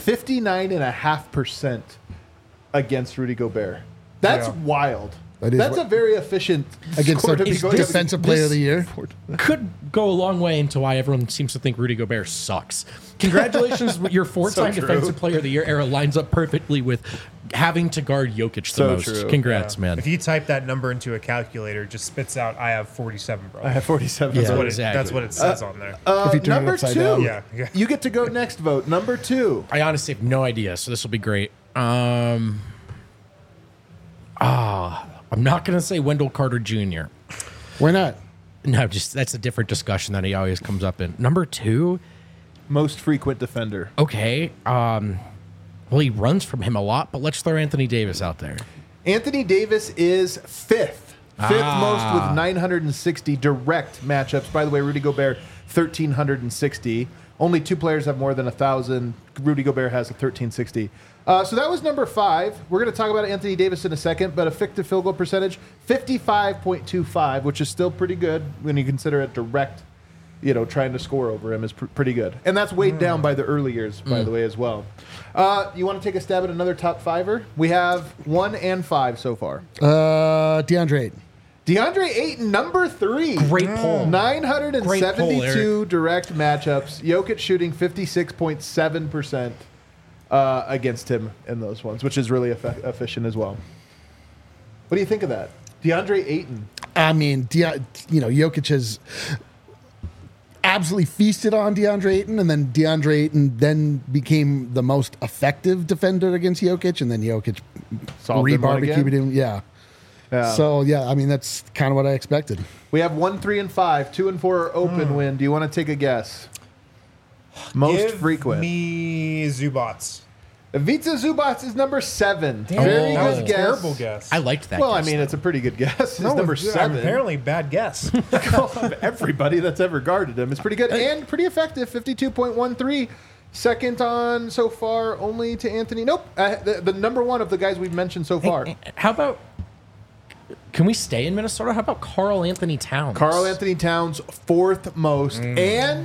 59.5% against Rudy Gobert. That's wild. That's a very efficient against score to the be going defensive player of the year. Could go a long way into why everyone seems to think Rudy Gobert sucks. Congratulations, your 4-time defensive player of the year era lines up perfectly with having to guard Jokic the most. True. Congrats, man. If you type that number into a calculator, it just spits out, I have 47, bro. I have 47. That's what it says on there. If you turn it Number upside 2. down. You get to go next, vote. Number 2. I honestly have no idea, so this will be great. I'm not going to say Wendell Carter Jr. Why not? No, just that's a different discussion that he always comes up in. Number 2, Most frequent defender. okay. Well, he runs from him a lot, but let's throw Anthony Davis out there. Anthony Davis is fifth. Fifth most with 960 direct matchups. By the way, Rudy Gobert, 1,360. Only 2 players have more than 1,000. Rudy Gobert has a 1,360. So that was number 5. We're going to talk about Anthony Davis in a second, but effective field goal percentage, 55.25, which is still pretty good when you consider it direct, trying to score over him is pretty good. And that's weighed down by the early years, by the way, as well. You want to take a stab at another top fiver? We have 1 and 5 so far. DeAndre Ayton. DeAndre Ayton, number 3. Great poll. 972 direct matchups. Jokic shooting 56.7% against him in those ones, which is really efficient as well. What do you think of that? DeAndre Ayton. I mean, Jokic has absolutely feasted on DeAndre Ayton, and then DeAndre Ayton then became the most effective defender against Jokic, and then Jokic Solved him one re-barbecued again? him. Yeah. Yeah. So, I mean, that's kind of what I expected. We have 1, 3, and 5. 2 and 4 are open win. Do you want to take a guess? Most Give frequent. me Zubats. Ivica Zubac is number 7. Damn, Very that was good a guess. terrible guess. I liked that. Well, I guess, mean, though. it's a pretty good guess. It's No, number it's- 7. Apparently, bad guess. Of everybody that's ever guarded him. It's pretty good and pretty effective. 52.13. Second on so far, only to Anthony. Nope. The number 1 of the guys we've mentioned so far. How about? Can we stay in Minnesota? How about Karl Anthony Towns? Karl Anthony Towns, 4th most. And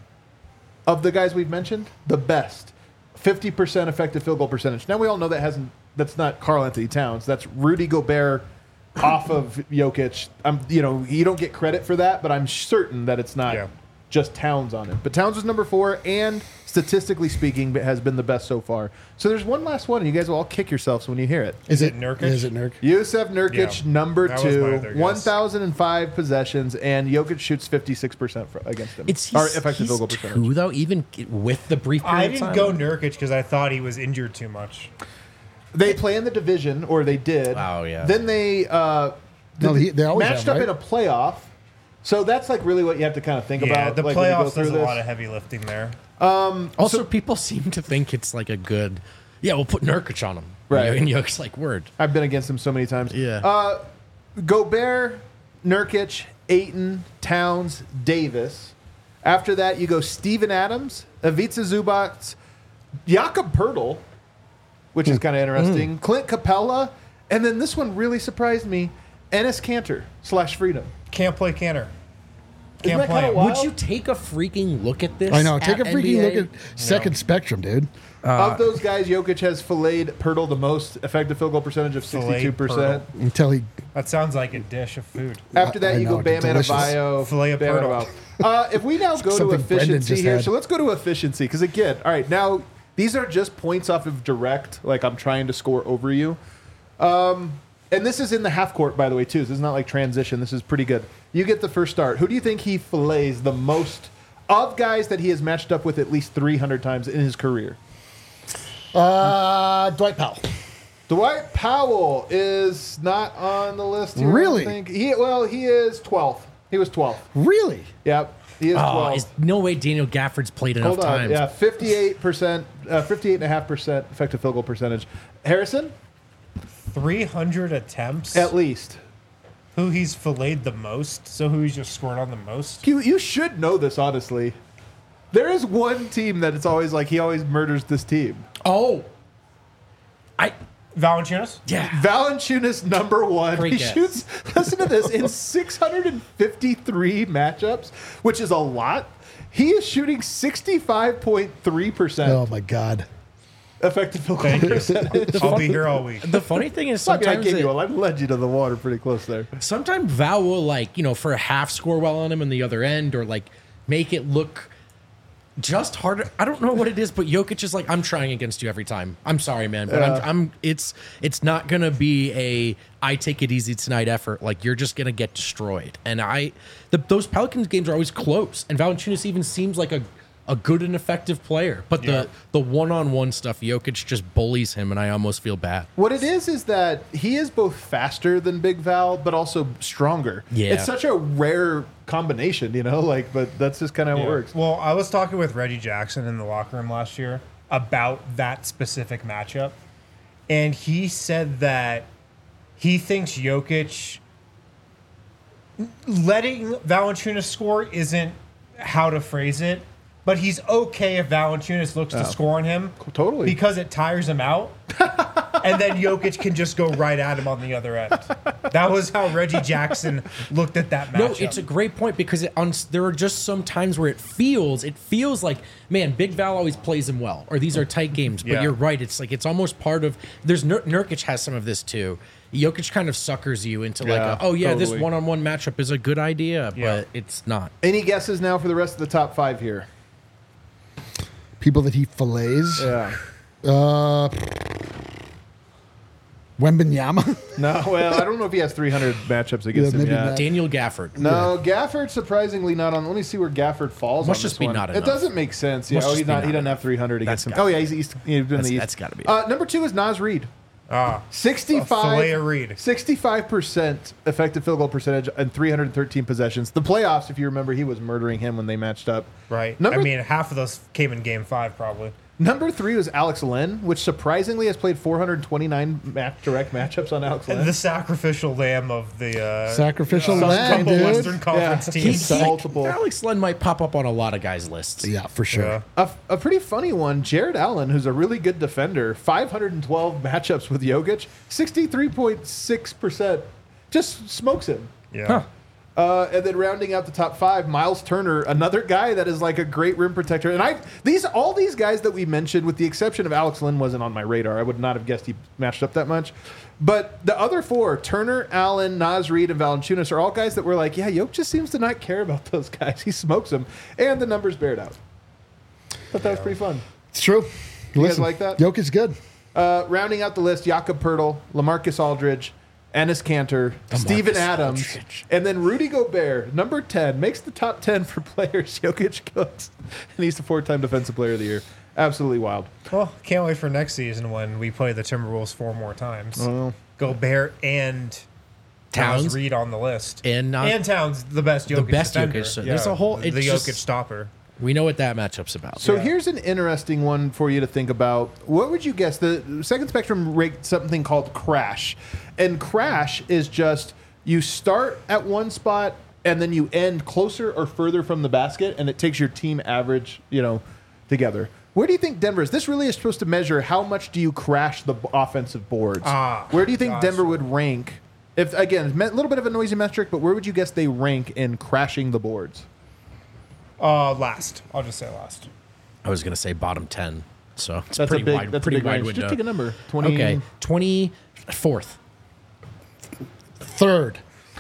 of the guys we've mentioned, the best. 50% effective field goal percentage. Now we all know that's not Karl Anthony Towns. That's Rudy Gobert off of Jokic. You don't get credit for that, but I'm certain that it's not just Towns on it. But Towns was number 4, and statistically speaking, has been the best so far. So there's one last one, and you guys will all kick yourselves when you hear it. Is it Nurkic? Is it Nurk? Yusef Nurkic, Yeah, number that was my 2, other guess. 1,005 possessions, and Jokic shoots 56% against him. Or effective field goal percentage. 2, though, even with the brief period I of didn't time? go Nurkic because I thought he was injured too much. They play in the division, or they did. Oh, yeah. Then they They always matched have, up in right? a playoff. So that's like really what you have to kind of think Yeah, about. the like, when you go playoffs through does a this. lot of heavy lifting there. Also, people seem to think it's like a good. Yeah, we'll put Nurkic on him. Right. And Jokic's like, word. I've been against him so many times. Yeah. Gobert, Nurkic, Ayton, Towns, Davis. After that, you go Steven Adams, Ivica Zubac, Jakob Poeltl, which is kind of interesting, Clint Capella, and then this one really surprised me, Enes Kanter / Freedom. Can't play Canner. Isn't Can't that play kinda him. wild? Would you take a freaking look at this? I know. Take a at freaking NBA? look at second spectrum, dude. Of those guys, Jokic has filleted Poeltl the most, effective field goal percentage of Filleted 62%. Until he. That sounds like a dish of food. After that, I you know, go Bam delicious. Adebayo. Filet of Bam Poeltl. Adebayo. If we now go to Something Brendan efficiency just here, had. so let's go to efficiency because again, all right, now these are just points off of direct, like I'm trying to score over you. And this is in the half court, by the way, too. This is not like transition. This is pretty good. You get the first start. Who do you think he fillets the most of guys that he has matched up with at least 300 times in his career? Dwight Powell. Dwight Powell is not on the list here. Really? I think. He is 12th. He was 12th. Really? Yep. He is 12. Oh, is no way Daniel Gafford's played enough Hold on. times. Yeah, 58%, 58.5% effective field goal percentage. Harrison, 300 attempts. at least. Who he's filleted the most. So who he's just scored on the most. You should know this, honestly. There is one team that it's always like he always murders this team. Oh. Valanciunas? Yeah. Valanciunas, number 1. Great he guess. shoots, listen to this, in 653 matchups, which is a lot. He is shooting 65.3% Oh my God. effective field goal Thank you. percentage. I'll be here all week. The funny thing is I mean, I sometimes gave you I led you to the water pretty close there. sometimes Val will for a half score well on him on the other end or like make it look just harder. I don't know what it is, but Jokic is like, I'm trying against you every time. I'm sorry, man, but I'm it's not gonna be I take it easy tonight effort. Like you're just gonna get destroyed. And those Pelicans games are always close. And Valanciunas even seems like a a good and effective player. But the one-on-one stuff, Jokic just bullies him, and I almost feel bad. What it is that he is both faster than Big Val, but also stronger. Yeah. It's such a rare combination, but that's just kind of how it works. Well, I was talking with Reggie Jackson in the locker room last year about that specific matchup, and he said that he thinks Jokic letting Valanciunas score isn't how to phrase it, but he's okay if Valanciunas looks to score on him. Totally. Because it tires him out. And then Jokic can just go right at him on the other end. That was how Reggie Jackson looked at that matchup. No, it's a great point because there are just some times where it feels like, man, Big Val always plays him well, or these are tight games. But Yeah. you're right. It's like it's almost part of. There's Nurkic has some of this too. Jokic kind of suckers you into Yeah, this totally. one-on-one matchup is a good idea, Yeah. but it's not. Any guesses now for the rest of the top 5 here? People that he fillets. Yeah. Wembanyama. No, well, I don't know if he has 300 matchups against Yeah, him. maybe Yeah. not. Daniel Gafford. No, Gafford surprisingly not on. Let me see where Gafford falls. Must on just this be one. not It enough. doesn't make sense. Yeah, Must just he's be not. He not doesn't have enough. 300 against him. gotta Oh yeah, he's in the East. That's gotta be it. Number 2 is Naz Reid. 65. 65% effective field goal percentage and 313 possessions. The playoffs, if you remember, he was murdering him when they matched up. Right. Number I mean, half of those came in game 5, probably. Number 3 was Alex Len, which surprisingly has played 429 direct matchups on Alex Len. The sacrificial lamb of the Sacrificial some lamb, couple dude. Western Conference Yeah. teams. Multiple. Alex Len might pop up on a lot of guys' lists. Yeah, for sure. Yeah. A pretty funny one, Jared Allen, who's a really good defender, 512 matchups with Jokic, 63.6%. Just smokes him. Yeah. And then rounding out the top 5, Miles Turner, another guy that is like a great rim protector. And all these guys that we mentioned, with the exception of Alex Len, wasn't on my radar. I would not have guessed he matched up that much. But the other 4, Turner, Allen, Naz Reid, and Valanciunas, are all guys that were like, yeah, Jokic just seems to not care about those guys. He smokes them. And the numbers bear it out. Thought that was pretty fun. It's true. You guys like that? Jokic's good. Rounding out the list, Jakob Pertl, LaMarcus Aldridge, Ennis Cantor, Steven Adams, Aldridge. and then Rudy Gobert, number 10, makes the top 10 for players Jokic goes. And he's the 4-time Defensive Player of the Year. Absolutely wild. Well, can't wait for next season when we play the Timberwolves 4 more times. Gobert and Towns. Reed on the list. And Towns, the best Jokic best defender. Jokic. So there's a whole- The it's Jokic just- stopper. We know what that matchup's about. So Yeah. here's an interesting one for you to think about. What would you guess? The Second Spectrum ranked something called crash. And crash is just you start at one spot and then you end closer or further from the basket, and it takes your team average, together. Where do you think Denver is? This really is supposed to measure how much do you crash the offensive boards. Where do you think gotcha. Denver would rank? If again, a little bit of a noisy metric, but where would you guess they rank in crashing the boards? Last. I'll just say last. I was going to say bottom 10. So it's That's pretty a big, wide, that's pretty a big wide range. window. Just take a number. 20. Okay, 24th. Third.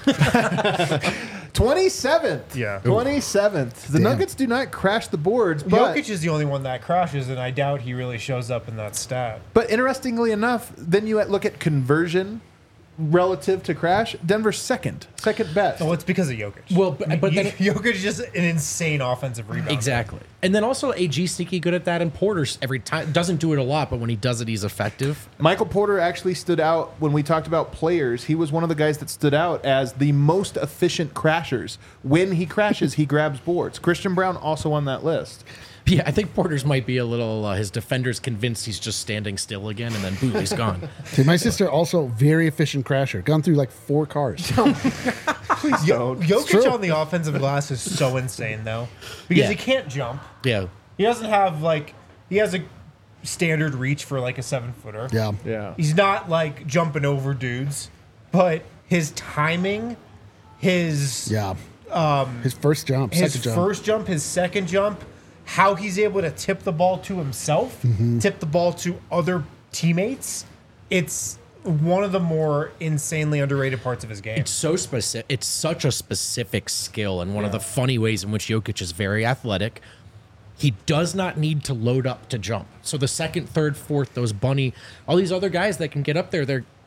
27th. Yeah. 27th. The Damn. Nuggets do not crash the boards, but Jokic is the only one that crashes, and I doubt he really shows up in that stat. interestingly enough, then you look at conversion relative to crash. Denver's second best. Well, it's because of Jokic. Well, but then- Jokic is just an insane offensive rebounder. Exactly. And then also AG sneaky good at that, and Porter's every time doesn't do it a lot, but when he does it, he's effective. Michael Porter actually stood out when we talked about players. He was one of the guys that stood out as the most efficient crashers. When he crashes, he grabs boards. Christian Brown also on that list. Yeah, I think Porter's might be a little. His defender's convinced he's just standing still again, and then boom, he's gone. See, my sister also very efficient crasher. Gone through like 4 cars. Please don't. Jokic true. on the offensive glass is so insane, though, because Yeah. he can't jump. Yeah, He doesn't have he has a standard reach for like a 7-footer. Yeah. Yeah. He's not like jumping over dudes, but his timing, his Yeah. His first jump, his second jump. first jump, his second jump, how he's able to tip the ball to himself, tip the ball to other teammates. It's one of the more insanely underrated parts of his game. it's so specific. It's such a specific skill, and one of the funny ways in which Jokic is very athletic. He does not need to load up to jump. So the second, third, fourth, those bunny, all these other guys that can get up there, they're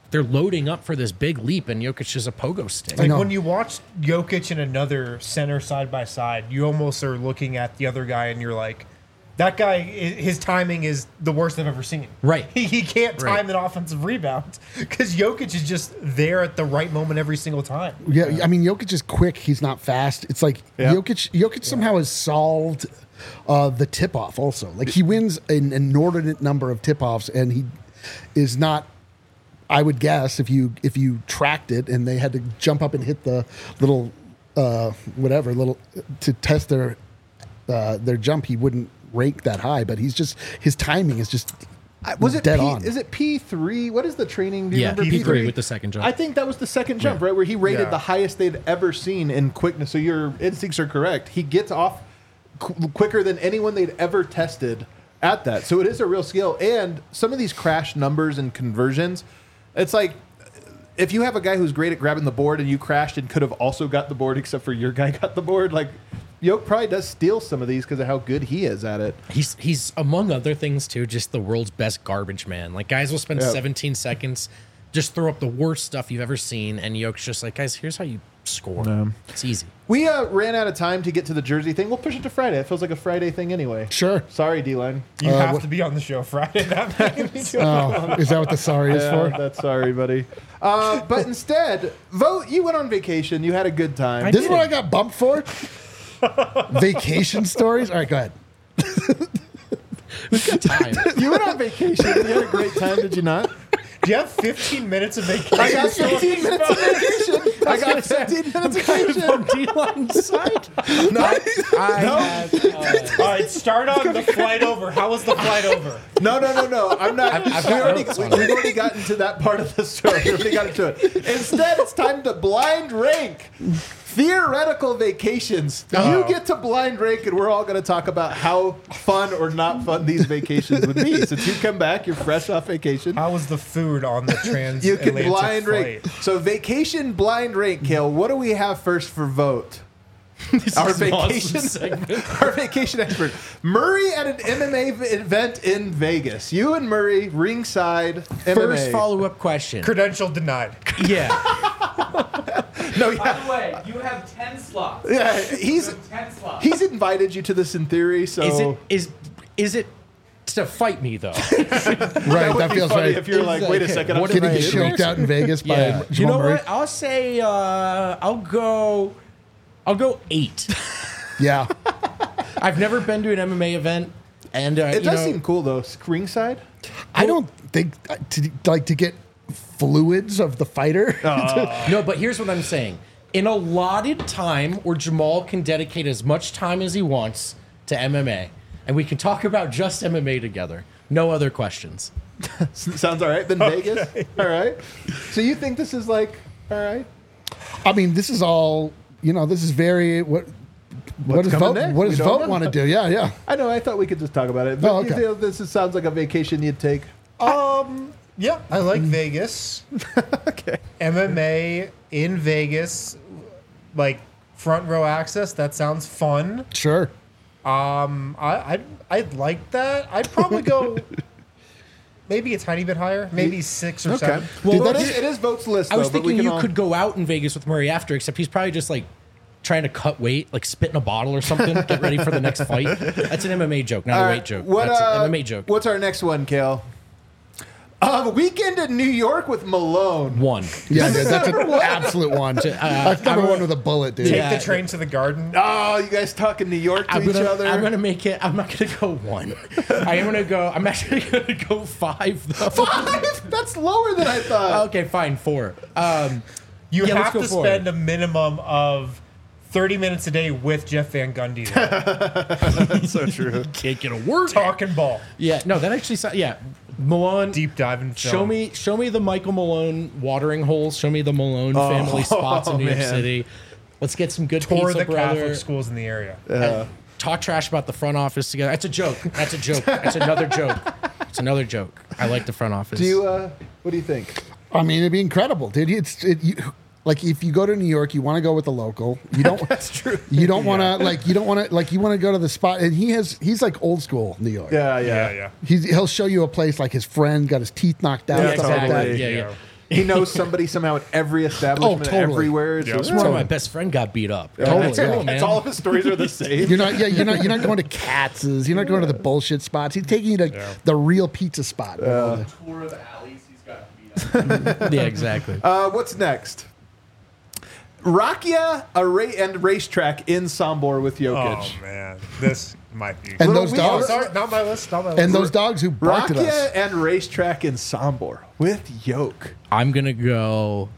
they're loading up for this big leap, and Jokic is a pogo stick. Like know. when you watch Jokic and another center side by side, you almost are looking at the other guy and you're like, that guy, his timing is the worst I've ever seen. Right. He can't time Right. an offensive rebound because Jokic is just there at the right moment every single time. Yeah, I mean, Jokic is quick. He's not fast. It's like Yeah. Jokic somehow has solved the tip off. Also, like he wins an inordinate number of tip offs, and he is not. I would guess if you tracked it and they had to jump up and hit the little little to test their jump, he wouldn't rank that high. But his timing is just Was it dead P, on. Is it P3? What is the training? Do you Yeah, remember P3 with the second jump. I think that was the second jump, right? Where he rated Yeah. the highest they'd ever seen in quickness. So your instincts are correct. He gets off quicker than anyone they'd ever tested at that. So it is a real skill. And some of these crash numbers and conversions, it's like if you have a guy who's great at grabbing the board and you crashed and could have also got the board except for your guy got the board, like Yoke probably does steal some of these because of how good he is at it. He's among other things too, just the world's best garbage man. Like guys will spend Yeah. 17 seconds, just throw up the worst stuff you've ever seen, and Yoke's just like, guys, here's how you score. It's easy. We ran out of time to get to the jersey thing. We'll push it to Friday. It feels like a Friday thing anyway. Sure. Sorry, D-Line. You have to be on the show Friday. That means- Oh, is that what the sorry is for? That's sorry, buddy. But instead, vote. You went on vacation. You had a good time. This is what I got bumped for. Vacation stories. All right, go ahead. Time. You went on vacation. You had a great time, did you not? Do you have 15 minutes of vacation? I got 15 minutes of vacation. I got 15 minutes of vacation. D-line side. I had, All right, start on the flight over. How was the flight over? No. I'm not. I've We've got notes on it. already gotten to that part of the story. We already got into it. Instead, it's time to blind rank theoretical vacations. You get to blind rank, and we're all going to talk about how fun or not fun these vacations would be. Since you come back, you're fresh off vacation. How was the food on the transatlantic You can blind flight? rank. So vacation blind rank, Kale. What do we have first for vote? Our is an awesome vacation, segment. our vacation expert, Murray at an MMA event in Vegas. You and Murray ringside MMA. First follow-up question. Credential denied. Yeah. No, By yeah, the way, you have 10 slots. yeah. You have 10 slots. He's invited you to this in theory. So Is it to fight me though? Right, that would that be feels funny right. if you're like, wait a second, I'm What Getting if I- choked out in Vegas by Yeah. Jamal You know Murray. what? I'll say I'll go 8. Yeah, I've never been to an MMA event, and it does seem cool though. Ringside. I don't think to get fluids of the fighter. No, but here's what I'm saying. In allotted time where Jamal can dedicate as much time as he wants to MMA, and we can talk about just MMA together. No other questions. Sounds all right. Then Vegas. All right. So you think this is like all right? I mean, this is all. This is very what does coming vote? next? What We does don't vote know. want to do? Yeah, yeah. I know. I thought we could just talk about it. But Oh, okay. you think sounds like a vacation you'd take. Yeah, I like Vegas. Okay. MMA in Vegas, like front row access. That sounds fun. Sure. I'd like that. I'd probably go maybe a tiny bit higher, maybe 6 or 7. Dude, Well, that it is votes list. I was though, but we thinking can you all- could go out in Vegas with Murray after, except he's probably just like trying to cut weight, like spit in a bottle or something, get ready for the next fight. That's an MMA joke, not All a right, weight joke. What, That's an MMA joke. What's our next one, Kale? Weekend in New York with Malone. 1. Yeah, dude, that's an absolute one. That's number one with a bullet, dude. Take Yeah. the train to the garden. Oh, you guys talking New York to each other? I'm gonna make it. I'm not gonna go 1. I'm actually gonna go 5 though. 5? That's lower than I thought. Okay, fine, 4. You Yeah, let's have go to for spend a minimum of 30 minutes a day with Jeff Van Gundy. So true. Can't get a word. Talking ball. Yeah, no, that actually sounds. Yeah, Malone. Deep dive in film. Show me the Michael Malone watering holes. Show me the Malone family spots in New York man. City. Let's get some good Tour pizza, the brother. Catholic schools in the area. Talk trash about the front office together. That's a joke. That's a joke. That's another joke. It's another joke. I like the front office. Do you? What do you think? I mean, it'd be incredible, dude. Like if you go to New York, you want to go with the local. You don't. That's true. You don't want to you want to go to the spot. And he's like old school New York. Yeah. Yeah. He'll show you a place like his friend got his teeth knocked out. Yeah, stuff like exactly. that. Yeah. He knows somebody somehow at every establishment, totally. everywhere. It's Yeah. just- That's where my best friend got beat up. Totally, That's yeah. cool, man. That's all of his stories are the same. You're not going to Katz's. You're not going to the bullshit spots. He's taking you to the real pizza spot. Tour of alleys, he's got beat up. Yeah, exactly. What's next? Rakia and racetrack in Sombor with Jokic. Oh man, this might be. And Little those weird. dogs, Sorry, not my list. Not my list. and those dogs who barked at Rakia us. and racetrack in Sombor with Yoke. I'm gonna go.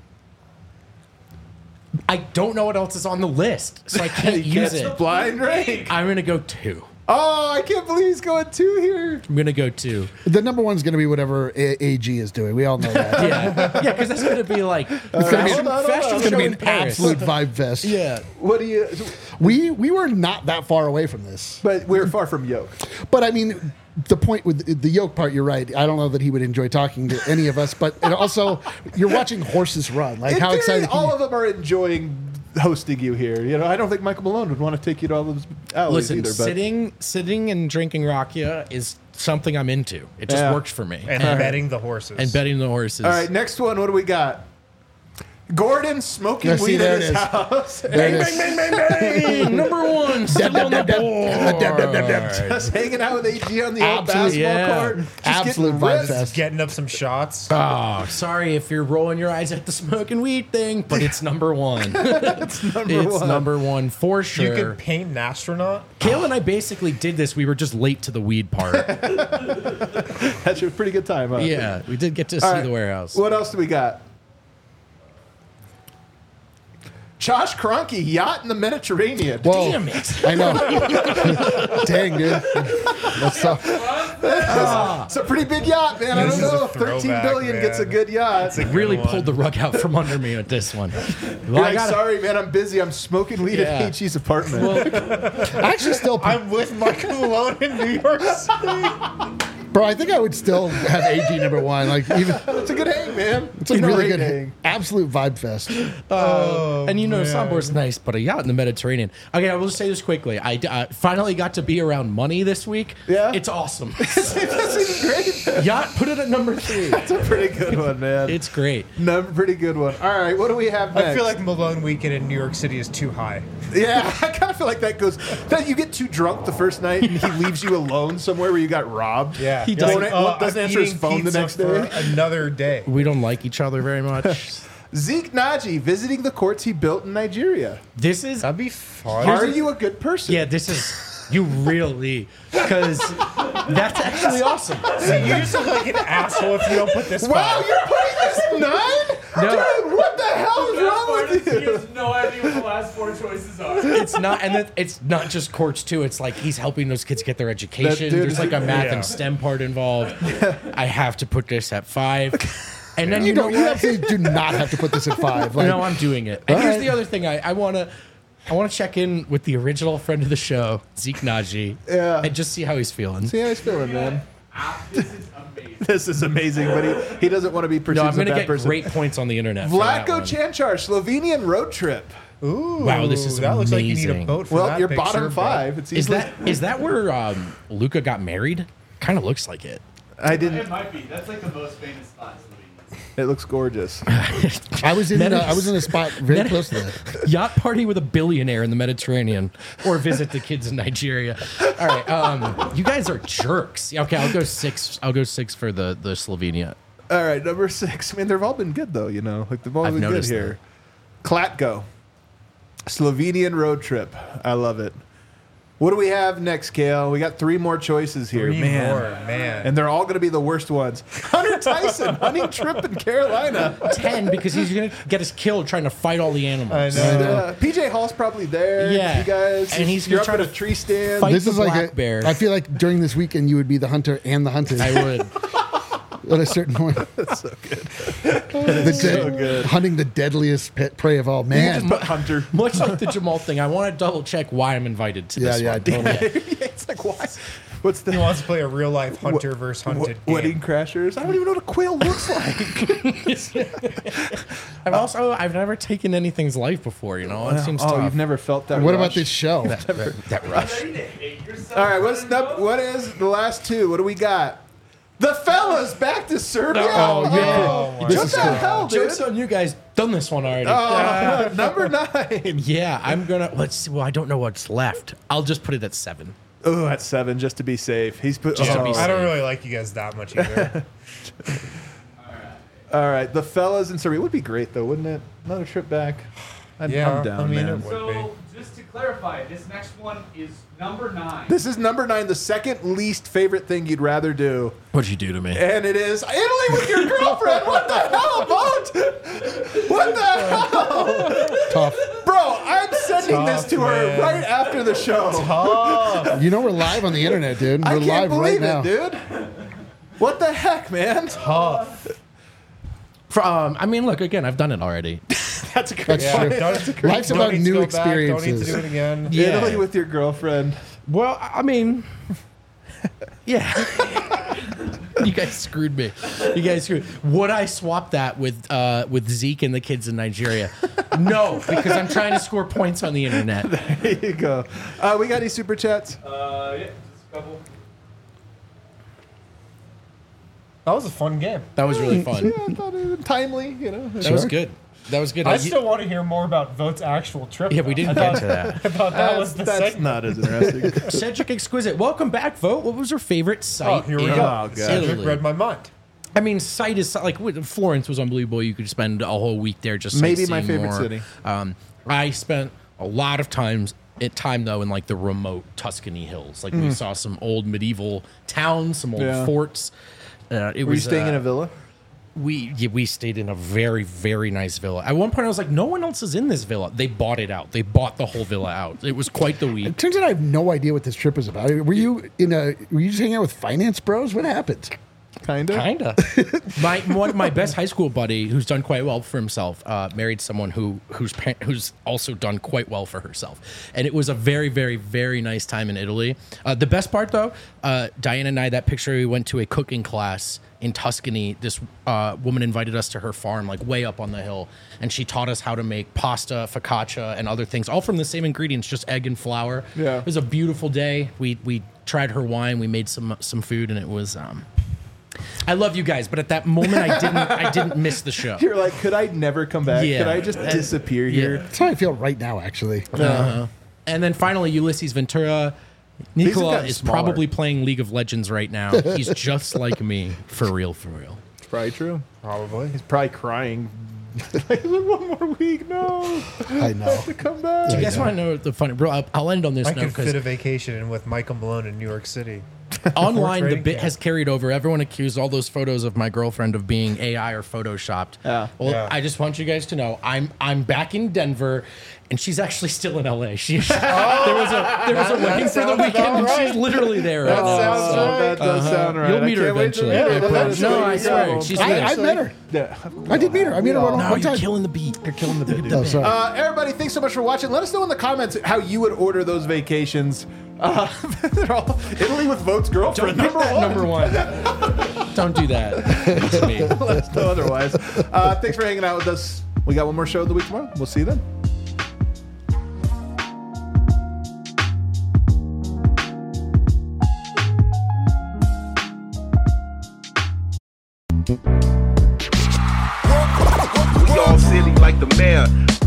I don't know what else is on the list, so I can't use Gets it. blind rank. I'm gonna go 2. Oh, I can't believe he's going 2 here. I'm gonna go 2. The number one's going to be whatever AG is doing. We all know that. Yeah, because that's gonna be like It's going to be, Hold on, fashion it's gonna show be in an Paris. absolute vibe fest. Yeah, What do you? We were not that far away from this. But we're far from Yoke. But I mean, the point with the yoke part, you're right. I don't know that he would enjoy talking to any of us. But it also, you're watching horses run. Like, In how theory, excited can all you- of them are enjoying hosting you here. You know, I don't think Michael Malone would want to take you to all those alleys listen, either. But sitting and drinking rakia is something I'm into. It just Yeah. works for me. and betting the horses. And betting the horses. all right, next one. What do we got? Gordon smoking Yeah, see, weed there in it his is. house. There it is. Bang, number 1, still on the board. Just hanging out with AG on the old Absolute- basketball yeah. court. Just Absolute getting vibe ripped. fest. Getting up some shots. Oh, sorry if you're rolling your eyes at the smoking weed thing, but it's number 1. It's number It's one. number 1 for You sure. could paint an astronaut. Kale and I basically did this. We were just late to the weed part. That's a pretty good time, huh? Yeah, we did get to All see right, the warehouse. What else do we got? Josh Kroenke, yacht in the Mediterranean. Whoa. Damn it. I know. Dang, dude. That's tough. It's a pretty big yacht, man. I This don't is a know if 13 throwback, billion man. gets a good yacht. It's a good Really one. pulled the rug out from under me with this one. You're Well, I like, gotta- sorry, man, I'm busy. I'm smoking weed Yeah. at AG's apartment. I actually still, I'm with Michael Malone in New York City. bro, I think I would still have AG number 1. Like, even, It's a good hang, man. it's a really great good, hang. absolute vibe fest. and you know, man. Sombor's nice, but a yacht in the Mediterranean. Okay, I will just say this quickly. I finally got to be around money this week. Yeah? It's awesome. This is great. Yacht, put it at number 3. It's a pretty good one, man. It's great. Pretty good one. All right, what do we have next? I feel like Malone weekend in New York City is too high. Yeah, I kind of feel like that goes. That you get too drunk the first night and he leaves you alone somewhere where you got robbed. Yeah, He You're doesn't- like, doesn't I'm answer his eating phone the pizza next for day. Another day. We don't like each other very much. Zeke Naji visiting the courts he built in Nigeria. This is That'd be fun. Are you a good person? Yeah, this is you really because that's actually awesome. You just look like an asshole if you don't put this. Wow, spot. you're putting this 9? No. Dude, what the hell is wrong with He you? has no idea what the last 4 choices are. It's not, and it's not just courts too. It's like he's helping those kids get their education. That dude There's is- like a math Yeah. and STEM part involved. I have to put this at 5, and then You you know don't. You what? absolutely do not have to put this at 5. Like, No, I'm doing it. And here's right. the other thing. I want to check in with the original friend of the show, Zeke Naji, Yeah. and just see how he's feeling. See how he's feeling, man. This is amazing. This is amazing, but he doesn't want to be perceived No, I'm as a going to bad get person. great points on the internet. for that Vlatko one. Chanchar, Slovenian road trip. Ooh, Wow, this is that looks like you need a amazing. boat for Well, that you're picture, bottom but- 5. It's Is easily, that where Luca got married? Kind of looks like it. I It didn't. might be. That's like the most famous spot in Slovenia. It looks gorgeous. I was in. I was in a spot very close to that. Yacht party with a billionaire in the Mediterranean, or visit the kids in Nigeria. All right, you guys are jerks. Okay, I'll go 6. I'll go 6 for the Slovenia. All right, number 6. I mean, they've all been good though. You know, like they've all I've been good noticed here. Klatko, Slovenian road trip. I love it. What do we have next, Kale? We got 3 more choices here, 3 man. more, man. And they're all going to be the worst ones. Hunter Tyson, hunting trip in Carolina. 10 because he's gonna get us killed trying to fight all the animals. I know. PJ Hall's probably there. Yeah. You guys. And he's you're gonna up try at a to tree stand. fight This the is like black bear. I feel like during this weekend you would be the hunter and the hunted I would. at a certain point. That's so good. good. Hunting the deadliest prey of all. Man, But Hunter. Much like the Jamal thing, I want to double check why I'm invited to yeah, this yeah, one. totally. It's like, why? What's the He wants to play a real life hunter versus hunted game. wedding crashers? I don't even know what a quail looks like. I've never taken anything's life before. You know, it seems tough. You've never felt that. What rush? about this show? that rush. Ready to hate yourself? All right, what is the last 2? What do we got? The fellas back to Serbia. Oh, yeah. Oh, my This What is the cool. hell, dude? Joke's on you guys. Done this one already. Number 9. Yeah, I'm gonna. Let's see. Well, I don't know what's left. I'll just put it at 7. Oh, at 7 just to be safe. He's put. Just to be oh. safe. I don't really like you guys that much either. All right, the fellas in Serbia would be great though, wouldn't it? Another trip back. I'm down, I mean, man. it would So, just to clarify, this next one is number 9. This is number 9, the second least favorite thing you'd rather do, What'd you do to me? and it is Italy with your girlfriend. What the hell, Boat? What the hell, Tough. bro? I'm sending this Tough, to her man. right after the show. You know we're live on the internet, dude. I We're can't live right believe now. it, dude. What the heck, man? Tough. I mean, look again. I've done it already. That's a great That's point. true. Life's about new Don't need to experiences. do it again. Yeah. Italy with your girlfriend. Well, I mean, yeah. You guys screwed me. You guys screwed. Would I swap that with Zeke and the kids in Nigeria? No, because I'm trying to score points on the internet. There you go. We got any super chats? Yeah, just a couple. That was a fun game. That was really fun. Yeah, I thought it was timely, you know. That was good. That was good. I still want to hear more about Vote's actual trip. Yeah, we though. didn't I get thought- to that. I thought that was the That's segment. not as interesting. Cedric Exquisite, welcome back, Vote. What was your favorite Oh, site? here we in go. God. Cedric Italy? read my mind. I mean, site is like Florence was unbelievable. You could spend a whole week there just Maybe my sightseeing favorite more. city. I spent a lot of time though in like the remote Tuscany hills. Like we saw some old medieval towns, some old Yeah. forts. It Were you was staying in a villa? we stayed in a very, very nice villa. At one point, I was like, no one else is in this villa. They bought it out. They bought the whole villa out. It was quite the week. It turns out I have no idea what this trip is about. Were you just hanging out with finance bros? What happened? Kinda. Kinda. My best high school buddy, who's done quite well for himself, married someone who's also done quite well for herself, and it was a very, very, very nice time in Italy. The best part, though, Diana and I, that picture, we went to a cooking class in Tuscany. This woman invited us to her farm, like way up on the hill, and she taught us how to make pasta, focaccia, and other things, all from the same ingredients, just egg and flour. Yeah. It was a beautiful day. We tried her wine. We made some food, and it was. I love you guys, but at that moment, I didn't miss the show. You're like, could I never come back? Yeah. Could I just disappear here? That's how I feel right now, actually. And then finally, Ulysses Ventura. Nicola gotten is smaller. probably playing League of Legends right now. He's just like me, for real, for real. It's probably true. Probably. He's probably crying. Like, one more week, no. I know. To come back. Do you guys want to know the funny? Bro, I'll end on this I note could fit because a vacation in with Michael Malone in New York City. online the trading bit camp. has carried over. Everyone accused all those photos of my girlfriend of being AI or photoshopped. Yeah. Well, Yeah. I just want you guys to know I'm back in Denver, and she's actually still in LA. There was a wedding for the sounds weekend, about and right. she's literally there right That now. sounds So- right. That does sound right. You'll meet her I can't wait to eventually. meet her. I promise. That's No, way I to swear. go. She's I met her. Yeah. I did meet her. I met her one No, you're time. killing the beat. You're killing the beat. Oh, sorry. Everybody, thanks so much for watching. Let us know in the comments how you would order those vacations. They're all Italy with Vote's girlfriend. Don't pick that number one. Don't do that to me. Let us know otherwise. Thanks for hanging out with us. We got one more show of the week tomorrow. We'll see you then. We all silly like the mayor.